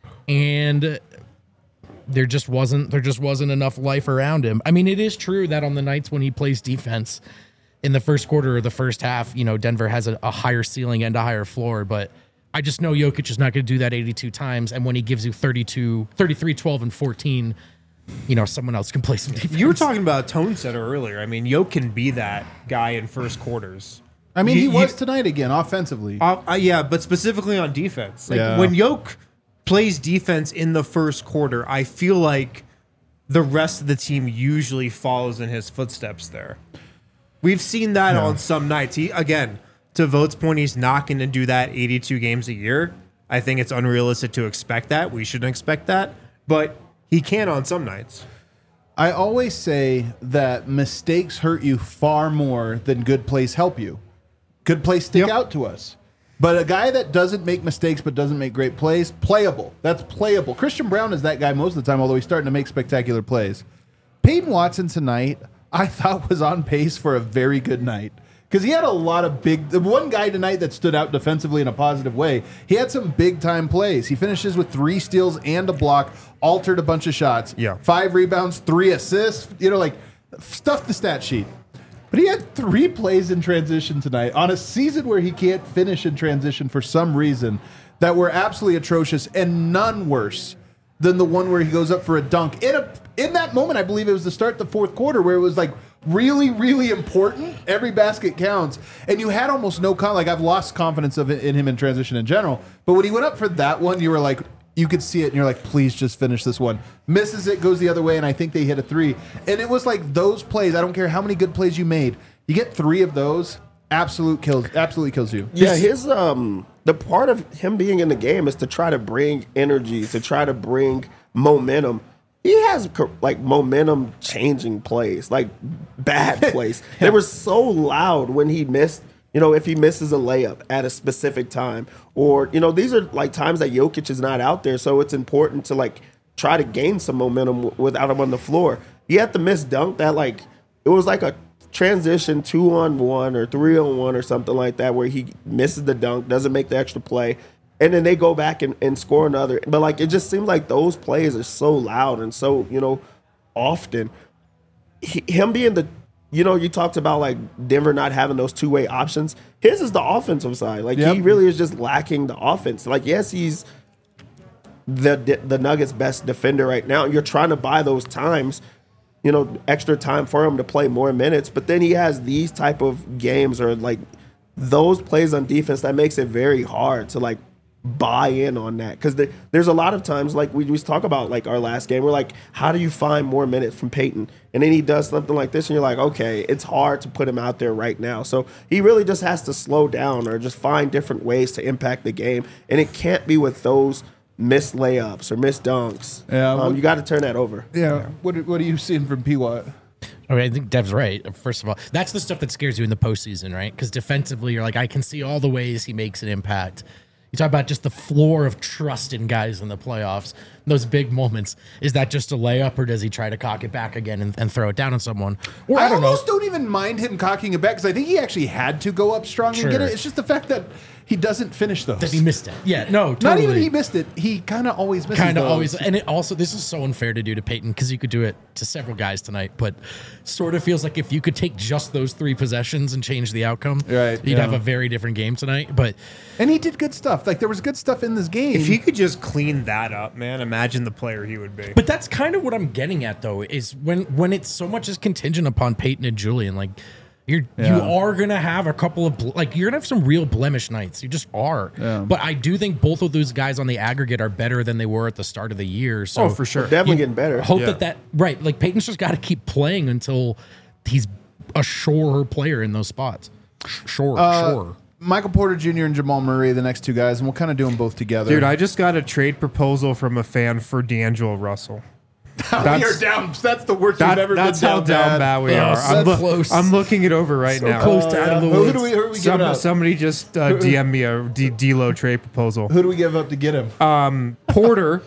and there just wasn't there just wasn't enough life around him. I mean, it is true that on the nights when he plays defense in the first quarter or the first half, you know, Denver has a, a higher ceiling and a higher floor, but I just know Jokic is not going to do that eighty-two times, and when he gives you thirty-two, thirty-three, twelve, and fourteen, you know, someone else can play some defense. You were talking about a tone setter earlier. I mean, Jokic can be that guy in first quarters. I mean, You- he was you- tonight again, offensively. Uh, uh, yeah, but specifically on defense. Like Yeah. when Jokic plays defense in the first quarter, I feel like the rest of the team usually follows in his footsteps there. We've seen that Yeah. on some nights. He again, to Vogt's point, he's not going to do that eighty-two games a year. I think it's unrealistic to expect that. We shouldn't expect that, but he can on some nights. I always say that mistakes hurt you far more than good plays help you. Good plays stick Yep. out to us. But a guy that doesn't make mistakes but doesn't make great plays, playable. That's playable. Christian Brown is that guy most of the time, although he's starting to make spectacular plays. Peyton Watson tonight, I thought was on pace for a very good night. Because he had a lot of big... The one guy tonight that stood out defensively in a positive way, he had some big-time plays. He finishes with three steals and a block, altered a bunch of shots. Yeah. Five rebounds, three assists. You know, like, stuff the stat sheet. But he had three plays in transition tonight on a season where he can't finish in transition for some reason that were absolutely atrocious, and none worse than the one where he goes up for a dunk. In a in that moment, I believe it was the start of the fourth quarter where it was like really, really important. Every basket counts. And you had almost no con like I've lost confidence of it in him in transition in general. But when he went up for that one, you were like, you could see it and you're like, please just finish this one. Misses it, goes the other way, and I think they hit a three. And it was like those plays, I don't care how many good plays you made, you get three of those, absolute kills absolutely kills you. Yeah, his um the part of him being in the game is to try to bring energy, to try to bring momentum. He has co- like momentum changing plays, like bad plays. They were so loud when he missed. You know, if he misses a layup at a specific time, or you know, these are like times that Jokic is not out there, so it's important to like try to gain some momentum w- without him on the floor. He had the missed dunk that like it was like a transition two on one or three on one or something like that where he misses the dunk, doesn't make the extra play, and then they go back and, and score another. But like it just seems like those plays are so loud and so, you know, often. He, him being the, you know, you talked about like Denver not having those two way options. His is the offensive side. Like Yep. he really is just lacking the offense. Like yes, he's the the Nuggets' best defender right now. You're trying to buy those times, you know, extra time for him to play more minutes. But then he has these type of games or like those plays on defense that makes it very hard to like buy in on that. Because the, there's a lot of times like we just talk about like our last game. We're like, how do you find more minutes from Peyton? And then he does something like this and you're like, okay, it's hard to put him out there right now. So he really just has to slow down or just find different ways to impact the game. And it can't be with those missed layups or missed dunks. Yeah, um, what- you got to turn that over. Yeah. What What are you seeing from P. Watt? I mean, I think Dev's right. First of all, that's the stuff that scares you in the postseason, right? Because defensively, you're like, I can see all the ways he makes an impact. You talk about just the floor of trust in guys in the playoffs, those big moments. Is that just a layup, or does he try to cock it back again and, and throw it down on someone? Or I, I, don't know. almost don't even mind him cocking it back because I think he actually had to go up strong Sure. and get it. It's just the fact that he doesn't finish those. That he missed it. Yeah, no, totally. Not even he missed it. He kind of always misses Kind of those. always, and it also this is so unfair to do to Peyton because you could do it to several guys tonight, but sort of feels like if you could take just those three possessions and change the outcome, Right, you'd yeah. have a very different game tonight. But And he did good stuff. Like there was good stuff in this game. If he could just clean that up, man, imagine the player he would be. but that's kind of what I'm getting at though is when when it's so much is contingent upon Peyton and Julian, like. You're Yeah. you are gonna have a couple of ble- like you're gonna have some real blemish nights. You just are. Yeah. But I do think both of those guys on the aggregate are better than they were at the start of the year. So Oh, for sure. Definitely you getting better. Hope Yeah. that that right. Like Peyton's just got to keep playing until he's a surer player in those spots. Sure, Uh, sure. Michael Porter Junior and Jamal Murray, the next two guys, and we'll kind of do them both together. Dude, I just got a trade proposal from a fan for D'Angelo Russell. we are that's- down. That's the worst That, you've ever that's been how down, down bad we Oh, are. so I'm, loo- close. I'm looking it over right now. close to out of the Who woods. do we, who do we give Some, up? somebody just uh, D M me a D- D-Lo trade proposal. Who do we give up to get him? Um, Porter.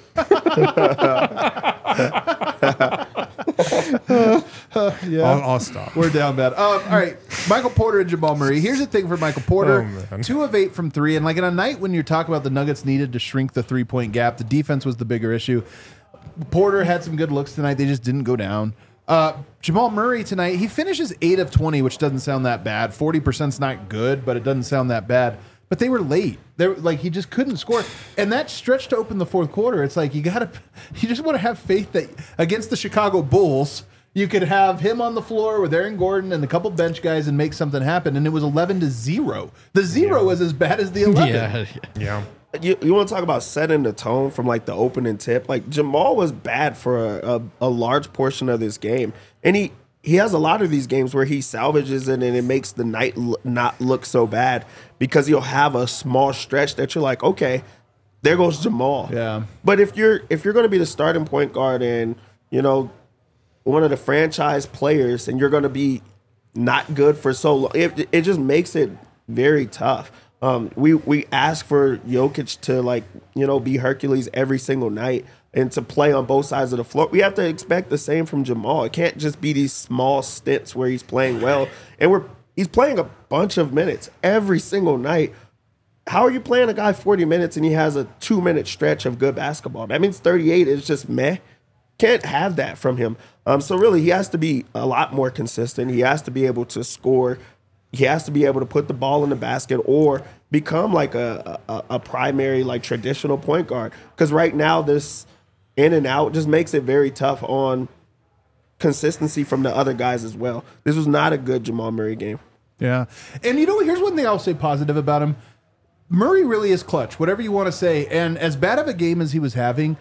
yeah. I'll, I'll stop. We're down bad. Um, all right, Michael Porter and Jamal Murray. Here's the thing for Michael Porter: Oh, man. two of eight from three, and like in a night when you're talking about the Nuggets needed to shrink the three point gap, the defense was the bigger issue. Porter had some good looks tonight; they just didn't go down. Uh, Jamal Murray tonight, he finishes eight of twenty, which doesn't sound that bad. Forty percent's not good, but it doesn't sound that bad. But they were late. They were, like he just couldn't score, and that stretch to open the fourth quarter. It's like you gotta, you just want to have faith that against the Chicago Bulls, you could have him on the floor with Aaron Gordon and a couple bench guys and make something happen. And it was eleven to zero. The zero was as bad as the eleven. Yeah. Yeah. You, you want to talk about setting the tone from like the opening tip? Like Jamal was bad for a, a, a large portion of this game, and he he has a lot of these games where he salvages it and it makes the night l- not look so bad because he'll have a small stretch that you're like, okay, there goes Jamal. Yeah. But if you're if you're going to be the starting point guard and you know one of the franchise players and you're going to be not good for so long, it it just makes it very tough. Um, we we ask for Jokic to like you know be Hercules every single night and to play on both sides of the floor. We have to expect the same from Jamal. It can't just be these small stints where he's playing well and we're he's playing a bunch of minutes every single night. How are you playing a guy forty minutes and he has a two minute stretch of good basketball? That means thirty-eight is just meh. Can't have that from him. Um, so really, he has to be a lot more consistent. He has to be able to score. He has to be able to put the ball in the basket or become like a a, a primary like traditional point guard. Because right now, this in and out just makes it very tough on consistency from the other guys as well. This was not a good Jamal Murray game. Yeah. And you know, here's one thing I'll say positive about him. Murray really is clutch, whatever you want to say. And as bad of a game as he was having,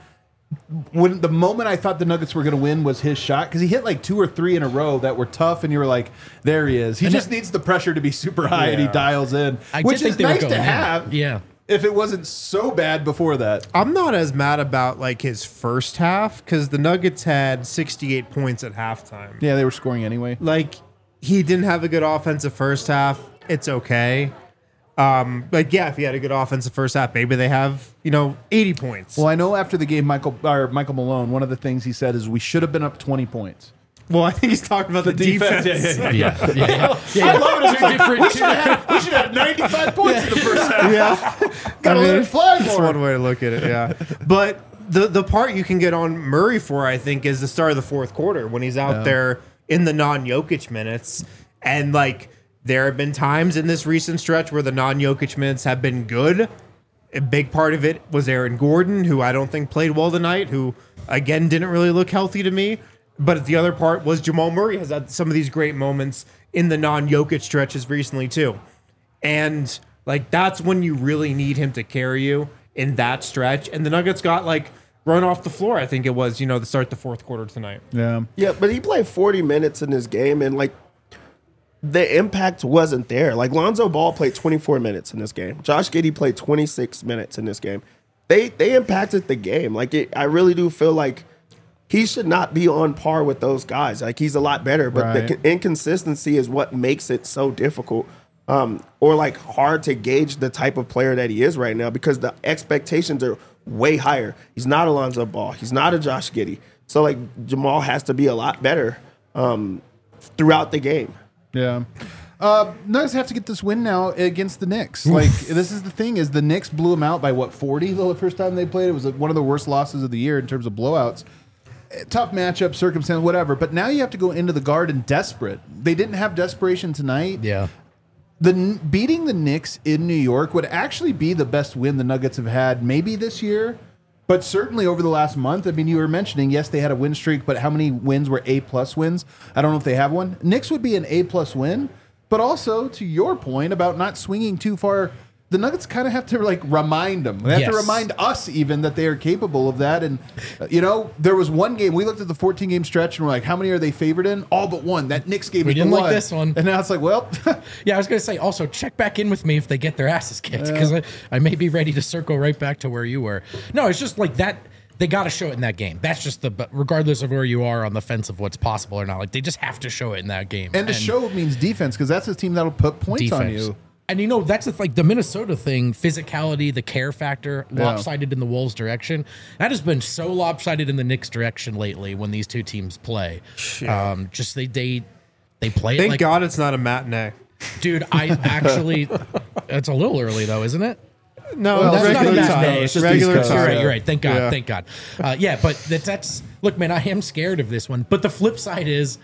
when the moment I thought the Nuggets were going to win was his shot, because he hit like two or three in a row that were tough, and you were like, there he is. He And just that- needs the pressure to be super high, and he Yeah. dials in, I which did think is they were nice going to in. have Yeah. if it wasn't so bad before that. I'm not as mad about like his first half because the Nuggets had sixty-eight points at halftime. Yeah, they were scoring anyway. Like he didn't have a good offensive first half. It's okay. Um, like yeah, if he had a good offensive first half, maybe they have you know eighty points. Well, I know after the game, Michael or Michael Malone, one of the things he said is we should have been up twenty points. Well, I think he's talking about the, defense. defense. Yeah, yeah, yeah. Yeah, yeah, yeah. I love it. It's Two like, different- we should have had, we should have ninety-five points in the first half. Yeah. Gotta I mean, let it fly That's more. one way to look at it, yeah. But the the part you can get on Murray for, I think, is the start of the fourth quarter when he's out Yeah. there in the non-Jokic minutes. And, like, there have been times in this recent stretch where the non-Jokic minutes have been good. A big part of it was Aaron Gordon, who I don't think played well tonight, who, again, didn't really look healthy to me. But the other part was Jamal Murray has had some of these great moments in the non-Jokic stretches recently, too. And, like, that's when you really need him to carry you in that stretch. And the Nuggets got, like, run off the floor, I think it was, you know, to start the fourth quarter tonight. Yeah. Yeah, but he played forty minutes in this game, and like the impact wasn't there. Like Lonzo Ball played twenty-four minutes in this game. Josh Giddey played twenty-six minutes in this game. They they impacted the game. Like it, I really do feel like he should not be on par with those guys. Like he's a lot better, but Right. the con- inconsistency is what makes it so difficult. Um, or like hard to gauge the type of player that he is right now because the expectations are way higher. He's not a Lonzo Ball. He's not a Josh Giddey. So like Jamal has to be a lot better um, throughout the game. Yeah. Uh, Nuggets have to get this win now against the Knicks. Like this is the thing: is the Knicks blew them out by what forty the first time they played. It was one of the worst losses of the year in terms of blowouts. Tough matchup, circumstance, whatever. But now you have to go into the Garden desperate. They didn't have desperation tonight. Yeah. The beating the Knicks in New York would actually be the best win the Nuggets have had maybe this year, but certainly over the last month. I mean, you were mentioning, yes, they had a win streak, but how many wins were A plus wins? I don't know if they have one. Knicks would be an A plus win, but also to your point about not swinging too far, the Nuggets kind of have to like remind them. They have Yes. to remind us even that they are capable of that. And uh, you know, there was one game we looked at the fourteen game stretch and we're like, how many are they favored in? All but one. That Knicks game We is the didn't like one. this one. And now it's like, well, Yeah, I was going to say, also, check back in with me if they get their asses kicked, because I, I may be ready to circle right back to where you were. No, it's just like that. They got to show it in that game. That's just the, but regardless of where you are on the fence of what's possible or not, like they just have to show it in that game. and to show means defense because that's a team that'll put points on you. And you know, that's the, like the Minnesota thing, physicality, the care factor, lopsided in the Wolves' direction. That has been so lopsided in the Knicks' direction lately when these two teams play. Um, just they they they play it Thank like, God it's not a matinee. dude, I actually, it's a little early though, isn't it? No, Well, it's That's not a regular matinee. time. It's just regular East Coast. time. You're right. You're right. Thank God. Yeah. Thank God. Uh, yeah, but that, that's look, man. I am scared of this one. But the flip side is,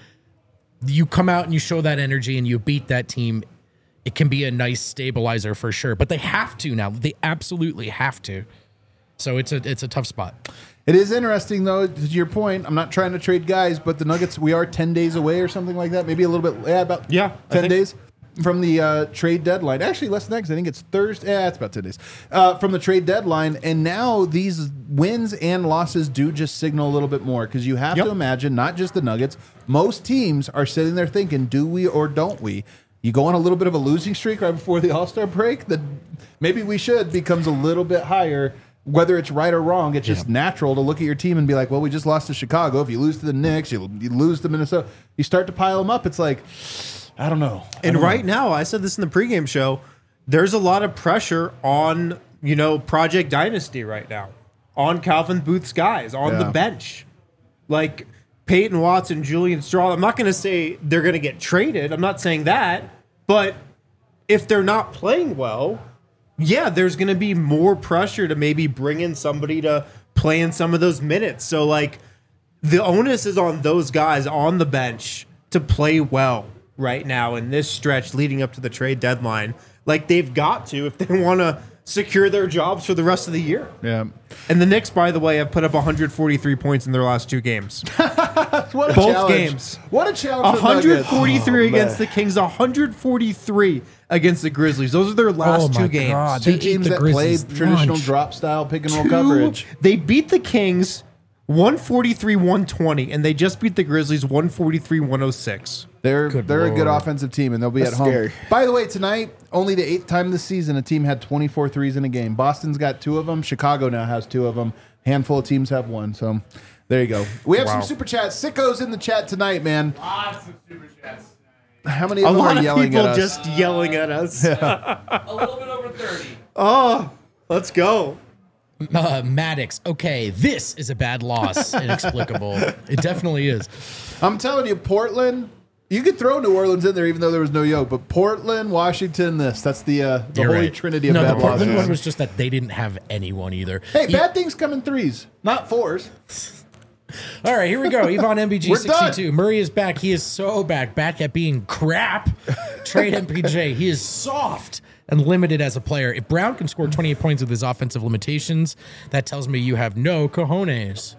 you come out and you show that energy and you beat that team. It can be a nice stabilizer for sure. But they have to now. They absolutely have to. So it's a it's a tough spot. It is interesting, though, to your point. I'm not trying to trade guys, but the Nuggets, we are ten days away or something like that. Maybe a little bit, yeah, about Yeah, I ten think- days from the uh, trade deadline. Actually, less than that because I think it's Thursday. Yeah, it's about ten days uh, from the trade deadline. And now these wins and losses do just signal a little bit more because you have Yep. to imagine, not just the Nuggets, most teams are sitting there thinking, do we or don't we? You go on a little bit of a losing streak right before the All-Star break, that maybe we should becomes a little bit higher. Whether it's right or wrong, it's just natural to look at your team and be like, well, we just lost to Chicago. If you lose to the Knicks, you, you lose to Minnesota. You start to pile them up. It's like, I don't know. I And don't right know. now, I said this in the pregame show, there's a lot of pressure on, you know, Project Dynasty right now, on Calvin Booth's guys, on the Yeah. bench. Like Peyton Watson, Julian Straw. I'm not going to say they're going to get traded. I'm not saying that. But if they're not playing well, yeah, there's going to be more pressure to maybe bring in somebody to play in some of those minutes. So, like, the onus is on those guys on the bench to play well right now in this stretch leading up to the trade deadline. Like, they've got to if they want to secure their jobs for the rest of the year. Yeah. And the Knicks, by the way, have put up one hundred forty-three points in their last two games. What a Both challenge. games. What a challenge. for the Nuggets. one hundred forty-three Oh, against man. the Kings, one hundred forty-three against the Grizzlies. Those are their last Oh two my games. God. Two They ate teams the that play Grizzlies' traditional lunch. drop style pick and roll Two- coverage. They beat the Kings one forty-three one twenty, and they just beat the Grizzlies one forty-three one oh six. They're Good they're a good Lord. offensive team, and they'll be That's at home. scary. By the way, tonight, only the eighth time this season a team had twenty-four threes in a game. Boston's got two of them. Chicago now has two of them. Handful of teams have one. So there you go. We have Wow. some super chats. Sickos in the chat tonight, man. Lots of super chats. How many A of them lot are of yelling people at us? just yelling at us. A little bit over thirty. Oh, let's go. Uh, Maddox. Okay, this is a bad loss. Inexplicable. It definitely is. I'm telling you, Portland. You could throw New Orleans in there, even though there was no yoke. But Portland, Washington, this. That's the uh, the You're holy right. trinity of no, bad the Portland losses. one was just that they didn't have anyone either. Hey, E- bad things come in threes, not fours. All right, here we go. Yvonne M B G We're sixty-two. Murray is back. He is so back. Back at being crap. Trade M P J. He is soft and limited as a player. If Brown can score twenty-eight points with his offensive limitations, that tells me you have no cojones.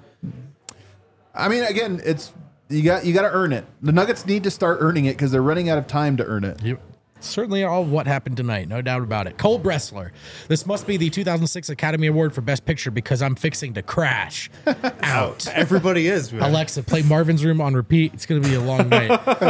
I mean, again, it's you got you got to earn it. The Nuggets need to start earning it because they're running out of time to earn it. Yep. Certainly all what happened tonight, no doubt about it. Cole Bressler. This must be the two thousand six Academy Award for Best Picture because I'm fixing to crash out. Everybody is. Man. Alexa, play Marvin's Room on repeat. It's going to be a long night.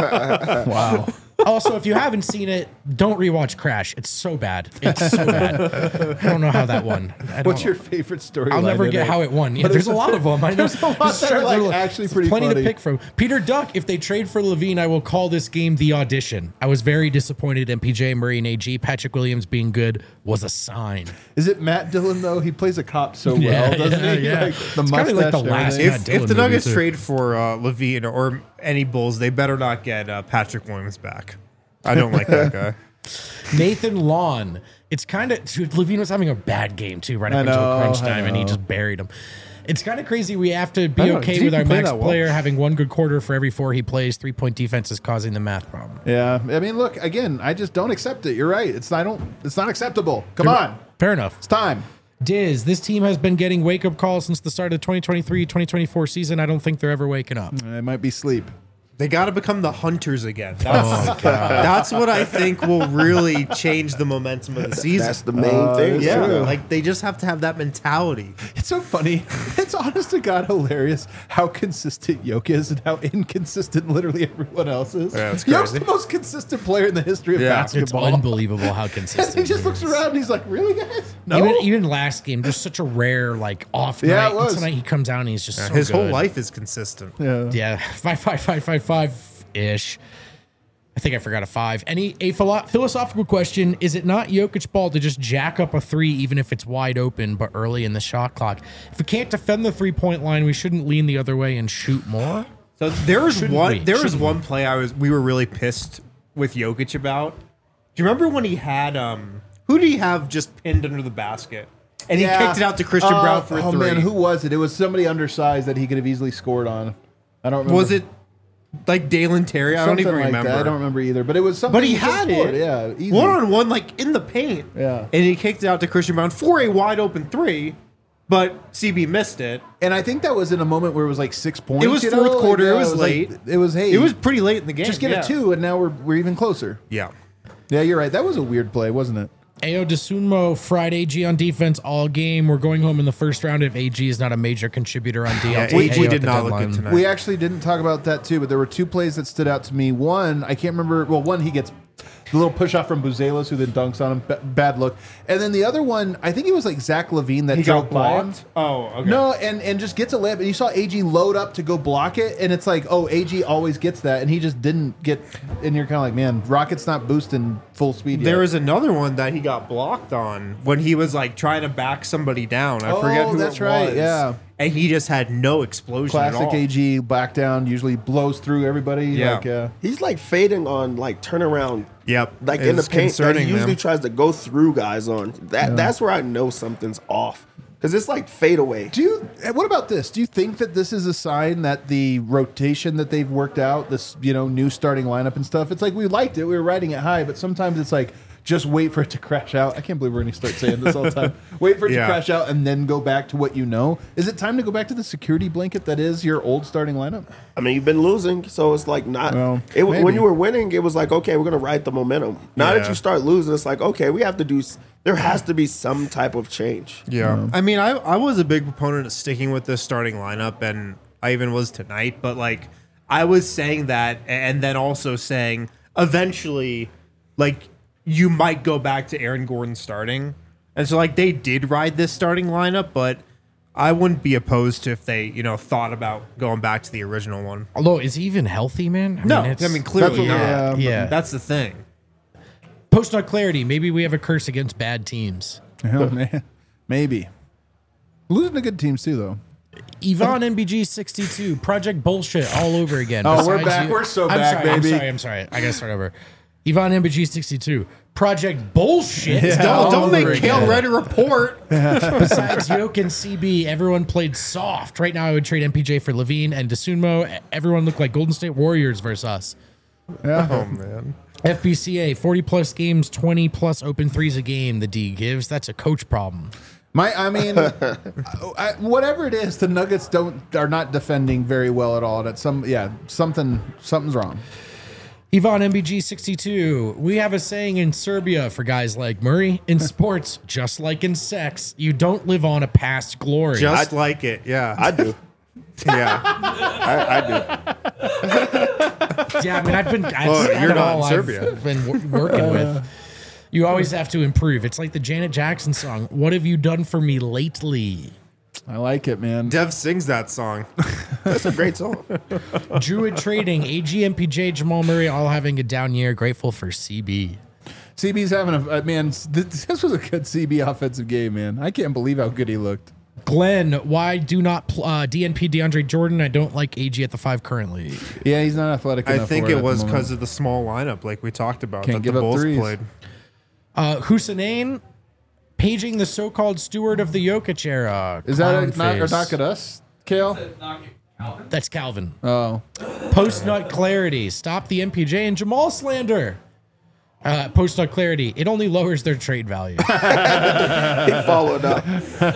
Wow. Also, if you haven't seen it, don't rewatch Crash. It's so bad. It's so bad. I don't know how that won. I don't What's know. your favorite story? I'll never get how it won. Yeah, there's a lot of them. I know. There's a lot that are, like, actually pretty plenty funny. to pick from. Peter Duck, if they trade for Levine, I will call this game the audition. I was very disappointed in P J, Murray, and A G. Patrick Williams being good was a sign. Is it Matt Dillon though? He plays a cop so well, Yeah, doesn't yeah, he? yeah. Like, the It's kinda mustache. like the and last- everything. Yeah, If, Dylan if the movie, Nuggets too. trade for uh, Levine or any Bulls, they better not get uh, Patrick Williams back. I don't like that guy. Nathan Lawn. It's kind of Levine was having a bad game too, right I up until know, crunch I time, and he know. just buried him. It's kind of crazy. We have to be I know, okay did he with our play max that well? player having one good quarter for every four he plays. Three point defense is causing the math problem. Yeah, I mean, look again. I just don't accept it. You're right. It's I don't. It's not acceptable. Come on, Fair enough. it's time. Diz, this team has been getting wake up calls since the start of the twenty twenty-three twenty twenty-four season. I don't think they're ever waking up. It might be sleep. They got to become the hunters again. That's, that's what I think will really change the momentum of the season. That's the main thing. yeah, sure. like they just have to have that mentality. It's so funny. It's honest to God hilarious how consistent Yoke is and how inconsistent literally everyone else is. Yeah, it's Yoke's crazy. the most consistent player in the history of Yeah. It's basketball. unbelievable how And consistent he just he looks is. around and he's like, "Really, guys? No." Even, even last game, just such a rare like off Yeah, night. it was. And tonight he comes out and he's just so His whole good. life is consistent. yeah. Yeah, five, five, five, five, five ish. I think I forgot a five. Any a philo- philosophical question? Is it not Jokic ball to just jack up a three, even if it's wide open, but early in the shot clock? If we can't defend the three point line, we shouldn't lean the other way and shoot more. So there was Shouldn't one. we? There was Shouldn't one play I was. We were really pissed with Jokic about. Do you remember when he had um? Who did he have just pinned under the basket? And he Yeah. kicked it out to Christian Uh, Brown for a oh three. man, who was it? It was somebody undersized that he could have easily scored on. I don't remember. was it? Like Dalen Terry? I don't Something even like remember. that. I don't remember either. But it was something. But he could have had scored. it. Yeah, easy. One on one, like in the paint. Yeah. And he kicked it out to Christian Brown for a wide open three, but C B missed it. And I think that was in a moment where it was like six points. It was you know? fourth Like, quarter. yeah, it was like- late. it was hey. It was pretty late in the game. just get yeah. a two, and now we're we're even closer. Yeah. Yeah, you're right. That was a weird play, wasn't it? Ayo Desunmo fried A G on defense all game. We're going home in the first round if A G is not a major contributor on D. Yeah, I'll take A G Ayo at did the not look deadline. good tonight. We actually didn't talk about that too, but there were two plays that stood out to me. One, I can't remember. Well, one he gets the little push off from Buzelos, who then dunks on him. B- bad look. And then the other one, I think it was like Zach Levine that He drove got by him. blocked. Oh, okay. No, and and just gets a layup, and you saw A G load up to go block it, and it's like, oh, A G always gets that, and he just didn't get. And you're kind of like, man, Rocket's not boosting full speed yet. There was another one that he got blocked on when he was like trying to back somebody down. I Oh, forget who that's it right, was. yeah. And he just had no explosion at classic all. A G back down, usually blows through everybody. Yeah. Like, uh, He's like fading on like turnaround. Yep. Like in the It's paint, that he concerning usually them. tries to go through guys on. That that's where I know something's off because it's like fade away. Do you? eh, What about this? Do you think that this is a sign that the rotation that they've worked out, this you know new starting lineup and stuff, it's like we liked it, we were riding it high, but sometimes it's like just wait for it to crash out. I can't believe we're going to start saying this all the time. Wait for it Yeah. to crash out and then go back to what you know. Is it time to go back to the security blanket that is your old starting lineup? I mean, you've been losing, so it's like not. Well, it, maybe. when you were winning, it was like okay, we're gonna ride the momentum. Now that Yeah. you start losing, it's like okay, we have to do. s- There has to be some type of change. Yeah. I mean, I, I was a big proponent of sticking with this starting lineup, and I even was tonight, but like, I was saying that, and then also saying eventually, like, you might go back to Aaron Gordon starting. And so, like, they did ride this starting lineup, but I wouldn't be opposed to if they, you know, thought about going back to the original one. Although, is he even healthy, man? I No, mean, it's, I mean, clearly That's what- not. yeah, yeah. That's the thing. Post nut clarity. Maybe we have a curse against bad teams. Oh, man. Maybe. Losing to good teams too, though. Yvonne M B G sixty-two, Project Bullshit all over again. Oh, we're Besides back. you- We're so I'm back, sorry, baby. I'm sorry, I'm sorry. I gotta start over. Yvonne M B G sixty-two, Project Bullshit. Yeah. Don't, all don't over make again. Kale read a report. Besides Yoke and C B, everyone played soft. Right now, I would trade M P J for Levine and DeSunmo. Everyone looked like Golden State Warriors versus us. Oh, man. F B C A, forty plus games, twenty plus open threes a game, the D gives. That's a coach problem. My, I mean, I, whatever it is, the Nuggets don't are not defending very well at all. That's some, yeah, something, something's wrong. Yvonne M B G sixty-two, we have a saying in Serbia for guys like Murray, in sports, just like in sex, you don't live on a past glory. Just like it. Yeah. I do. yeah. I, I do. Yeah, I mean, I've been, I've Well, kind you're of not all in I've Serbia. been w- working with. You always have to improve. It's like the Janet Jackson song, What Have You Done For Me Lately? I like it, man. Dev sings that song. That's a great song. Druid Trading, A G, M P J, Jamal Murray, all having a down year. Grateful for C B. C B's having a uh, man. This, this was a good C B offensive game, man. I can't believe how good he looked. Glenn, why do not pl- uh, D N P DeAndre Jordan? I don't like A G at the five currently. Yeah, he's not athletic enough. I think for it at was the because moment. of the small lineup, like we talked about, Can't that give the up Bulls threes. played. Uh, Hussein, paging the so-called steward of the Jokic era. Is that a Clown knock or face. knock at us, Kale? That's Calvin. Oh, Post-nut clarity. Stop the M P J and Jamal slander. Uh, Post-nut clarity. It only lowers their trade value. He followed up.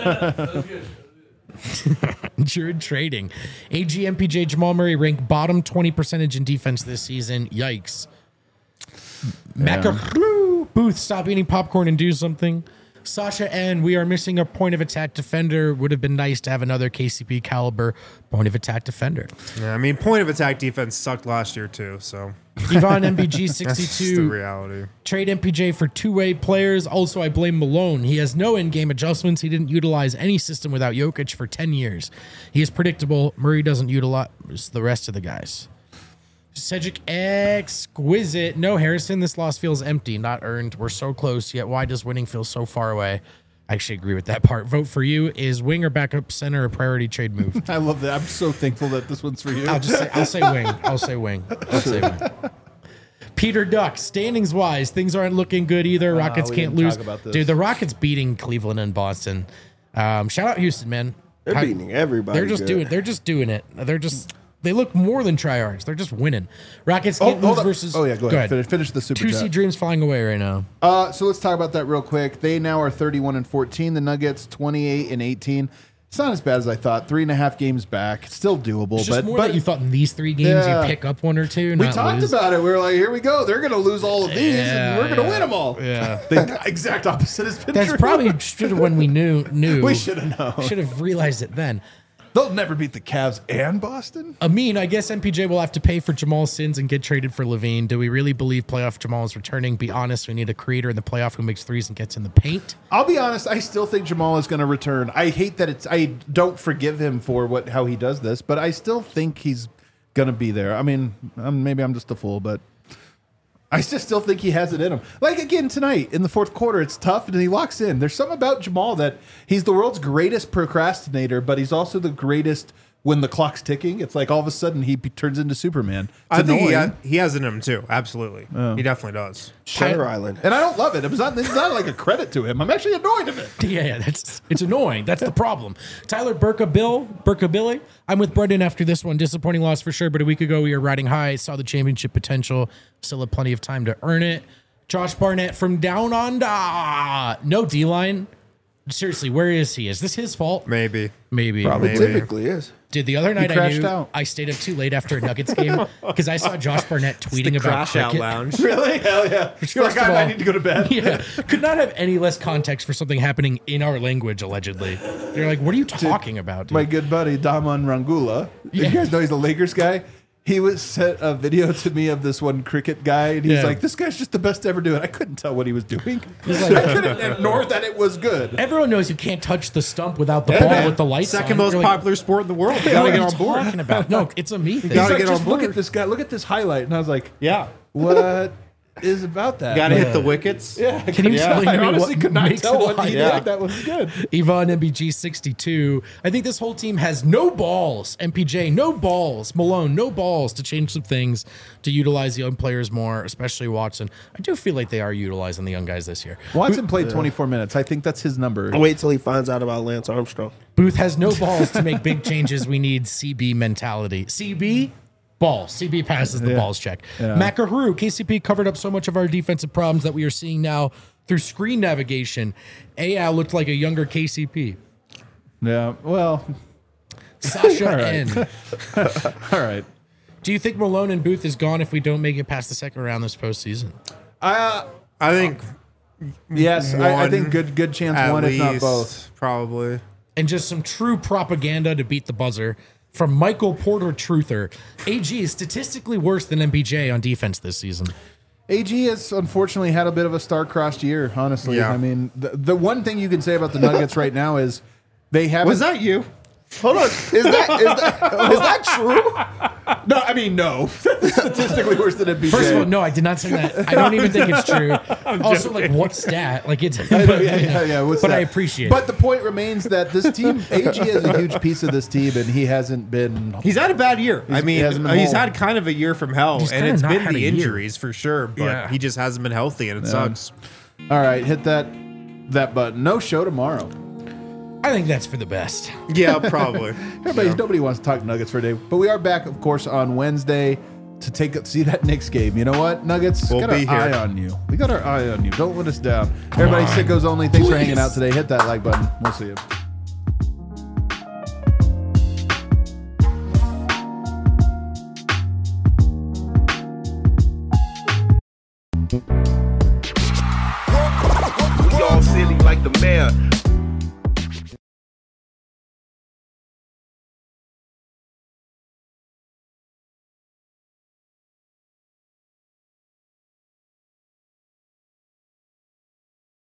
Druid Trading. A G, M P J, Jamal Murray rank bottom twenty percentage in defense this season. Yikes. Macaroo. Booth, stop eating popcorn and do something. Sasha N, we are missing a point of attack defender. Would have been nice to have another K C P caliber point of attack defender. Yeah, I mean, point of attack defense sucked last year, too, so Yvonne M B G that's just the sixty-two. reality. Trade M P J for two-way players. Also, I blame Malone. He has no in-game adjustments. He didn't utilize any system without Jokic for ten years. He is predictable. Murray doesn't utilize the rest of the guys. Cedric exquisite. No, Harrison, this loss feels empty, not earned. We're so close, yet why does winning feel so far away? I actually agree with that part. Vote for you. Is wing or backup center a priority trade move? I love that. I'm so thankful that this one's for you. I'll just say I'll say wing. I'll say wing. I'll say wing. Peter Duck, standings wise, things aren't looking good either. Rockets we can't didn't lose. talk about this. Dude, the Rockets beating Cleveland and Boston. Um, shout out Houston, man. They're How- beating everybody. They're just good. doing. They're just doing it. They're just. They look more than tryhards. They're just winning. Rockets Oh, can't hold lose up. versus. Oh yeah, go ahead. Finish, finish the super Two chat. C dreams flying away right now. Uh, so let's talk about that real quick. They now are thirty-one and fourteen. The Nuggets twenty-eight and eighteen. It's not as bad as I thought. Three and a half games back. It's still doable, It's just but more but that you thought in these three games Yeah. you pick up one or two. we not talked lose. about it. We were like, here we go. They're going to lose all of these, Yeah, and we're going to yeah. win them all. Yeah. The exact opposite has been That's true. probably should have when we knew knew. We should have known. Should have realized it then. They'll never beat the Cavs and Boston. Amin, I guess M P J will have to pay for Jamal's sins and get traded for Levine. Do we really believe playoff Jamal is returning? Be honest, we need a creator in the playoff who makes threes and gets in the paint. I'll be honest. I still think Jamal is going to return. I hate that it's. I don't forgive him for what how he does this, but I still think he's going to be there. I mean, um, maybe I'm just a fool, but I just still think he has it in him. Like again tonight in the fourth quarter, it's tough, and he locks in. There's something about Jamal that he's the world's greatest procrastinator, but he's also the greatest when the clock's ticking. It's like all of a sudden he be- turns into Superman. It's I think he, annoying. ha- he has it in him, too. Absolutely. He definitely does. Shutter Island. And I don't love it. It's not, it's not like a credit to him. I'm actually annoyed of it. Yeah, yeah, that's it's annoying. That's the problem. Tyler Burka Bill, Burka Billy. I'm with Brendan after this one. Disappointing loss for sure, but a week ago we were riding high, saw the championship potential, still have plenty of time to earn it. Josh Barnett from down under. No D line. Seriously, where is he? Is this his fault? Maybe. Maybe. Probably Maybe. typically is. Dude, the other night I crashed knew out. I stayed up too late after a Nuggets game because I saw Josh Barnett tweeting The about crash out cricket. lounge. Really? Hell yeah. You're like, First of I, I all- need to go to bed. Yeah, could not have any less context for something happening in our language. Allegedly, they're like, "What are you talking about?" Dude? My good buddy Daman Rangula. Yeah. You guys know he's a Lakers guy. He was sent a video to me of this one cricket guy, and he's Yeah. like, "This guy's just the best to ever do it." I couldn't tell what he was doing. I couldn't ignore that it was good. Everyone knows you can't touch the stump without the Yeah, ball man. with the lights Second on. most You're like, popular sport in the world. You "What gotta are get you on board. talking about?" No, it's a me thing. He's gotta like, get on just look board. at this guy. Look at this highlight, and I was like, Yeah. "What is about that. Got to hit the wickets. Yeah, Can you explain I to me honestly what could not makes tell it what he like did. that? That was good. Yvonne M B G sixty-two. I think this whole team has no balls. M P J, no balls. Malone, no balls to change some things, to utilize the young players more, especially Watson. I do feel like they are utilizing the young guys this year. Watson played twenty-four minutes. I think that's his number. Wait till he finds out about Lance Armstrong. Booth has no balls to make big changes. We need C B mentality. C B, ball. C B passes the Yeah. balls check. Yeah. Macaru, K C P covered up so much of our defensive problems that we are seeing now through screen navigation. A L looked like a younger K C P. Yeah, well, Sasha All right. N. all right. Do you think Malone and Booth is gone if we don't make it past the second round this postseason? Uh, I think yes, I, I One, think good good chance at one, least, if not both. probably. And just some true propaganda to beat the buzzer from Michael Porter Truther. A G is statistically worse than M P J on defense this season. A G has unfortunately had a bit of a star-crossed year, honestly. Yeah. I mean, the, the one thing you can say about the Nuggets right now is they haven't... Was that you? Hold on, is that is that is that true? No, I mean, no. Statistically worse than M P J. First of all, no, I did not say that. I don't even think it's true. Also, like, what stat? Like, it's. I know, yeah, yeah, yeah. What's but that? I appreciate But it. the point remains that this team, A G is a huge piece of this team, and he hasn't been... He's had a bad year. I He's- mean, he hasn't been he's whole. had kind of a year from hell, He's and kinda it's not been had the a year. injuries for sure. But Yeah. he just hasn't been healthy, and it sucks. All right, hit that that button. No show tomorrow. I think that's for the best. Yeah, probably. Everybody, nobody wants to talk Nuggets for a day, but we are back, of course, on Wednesday to take see that Knicks game. You know what, Nuggets, We'll got be our here. eye on you. We got our eye on you. Don't let us down. Everybody, on. sickos only. Thanks for hanging Please. out today. Hit that like button. We'll see you. We all silly like the mayor.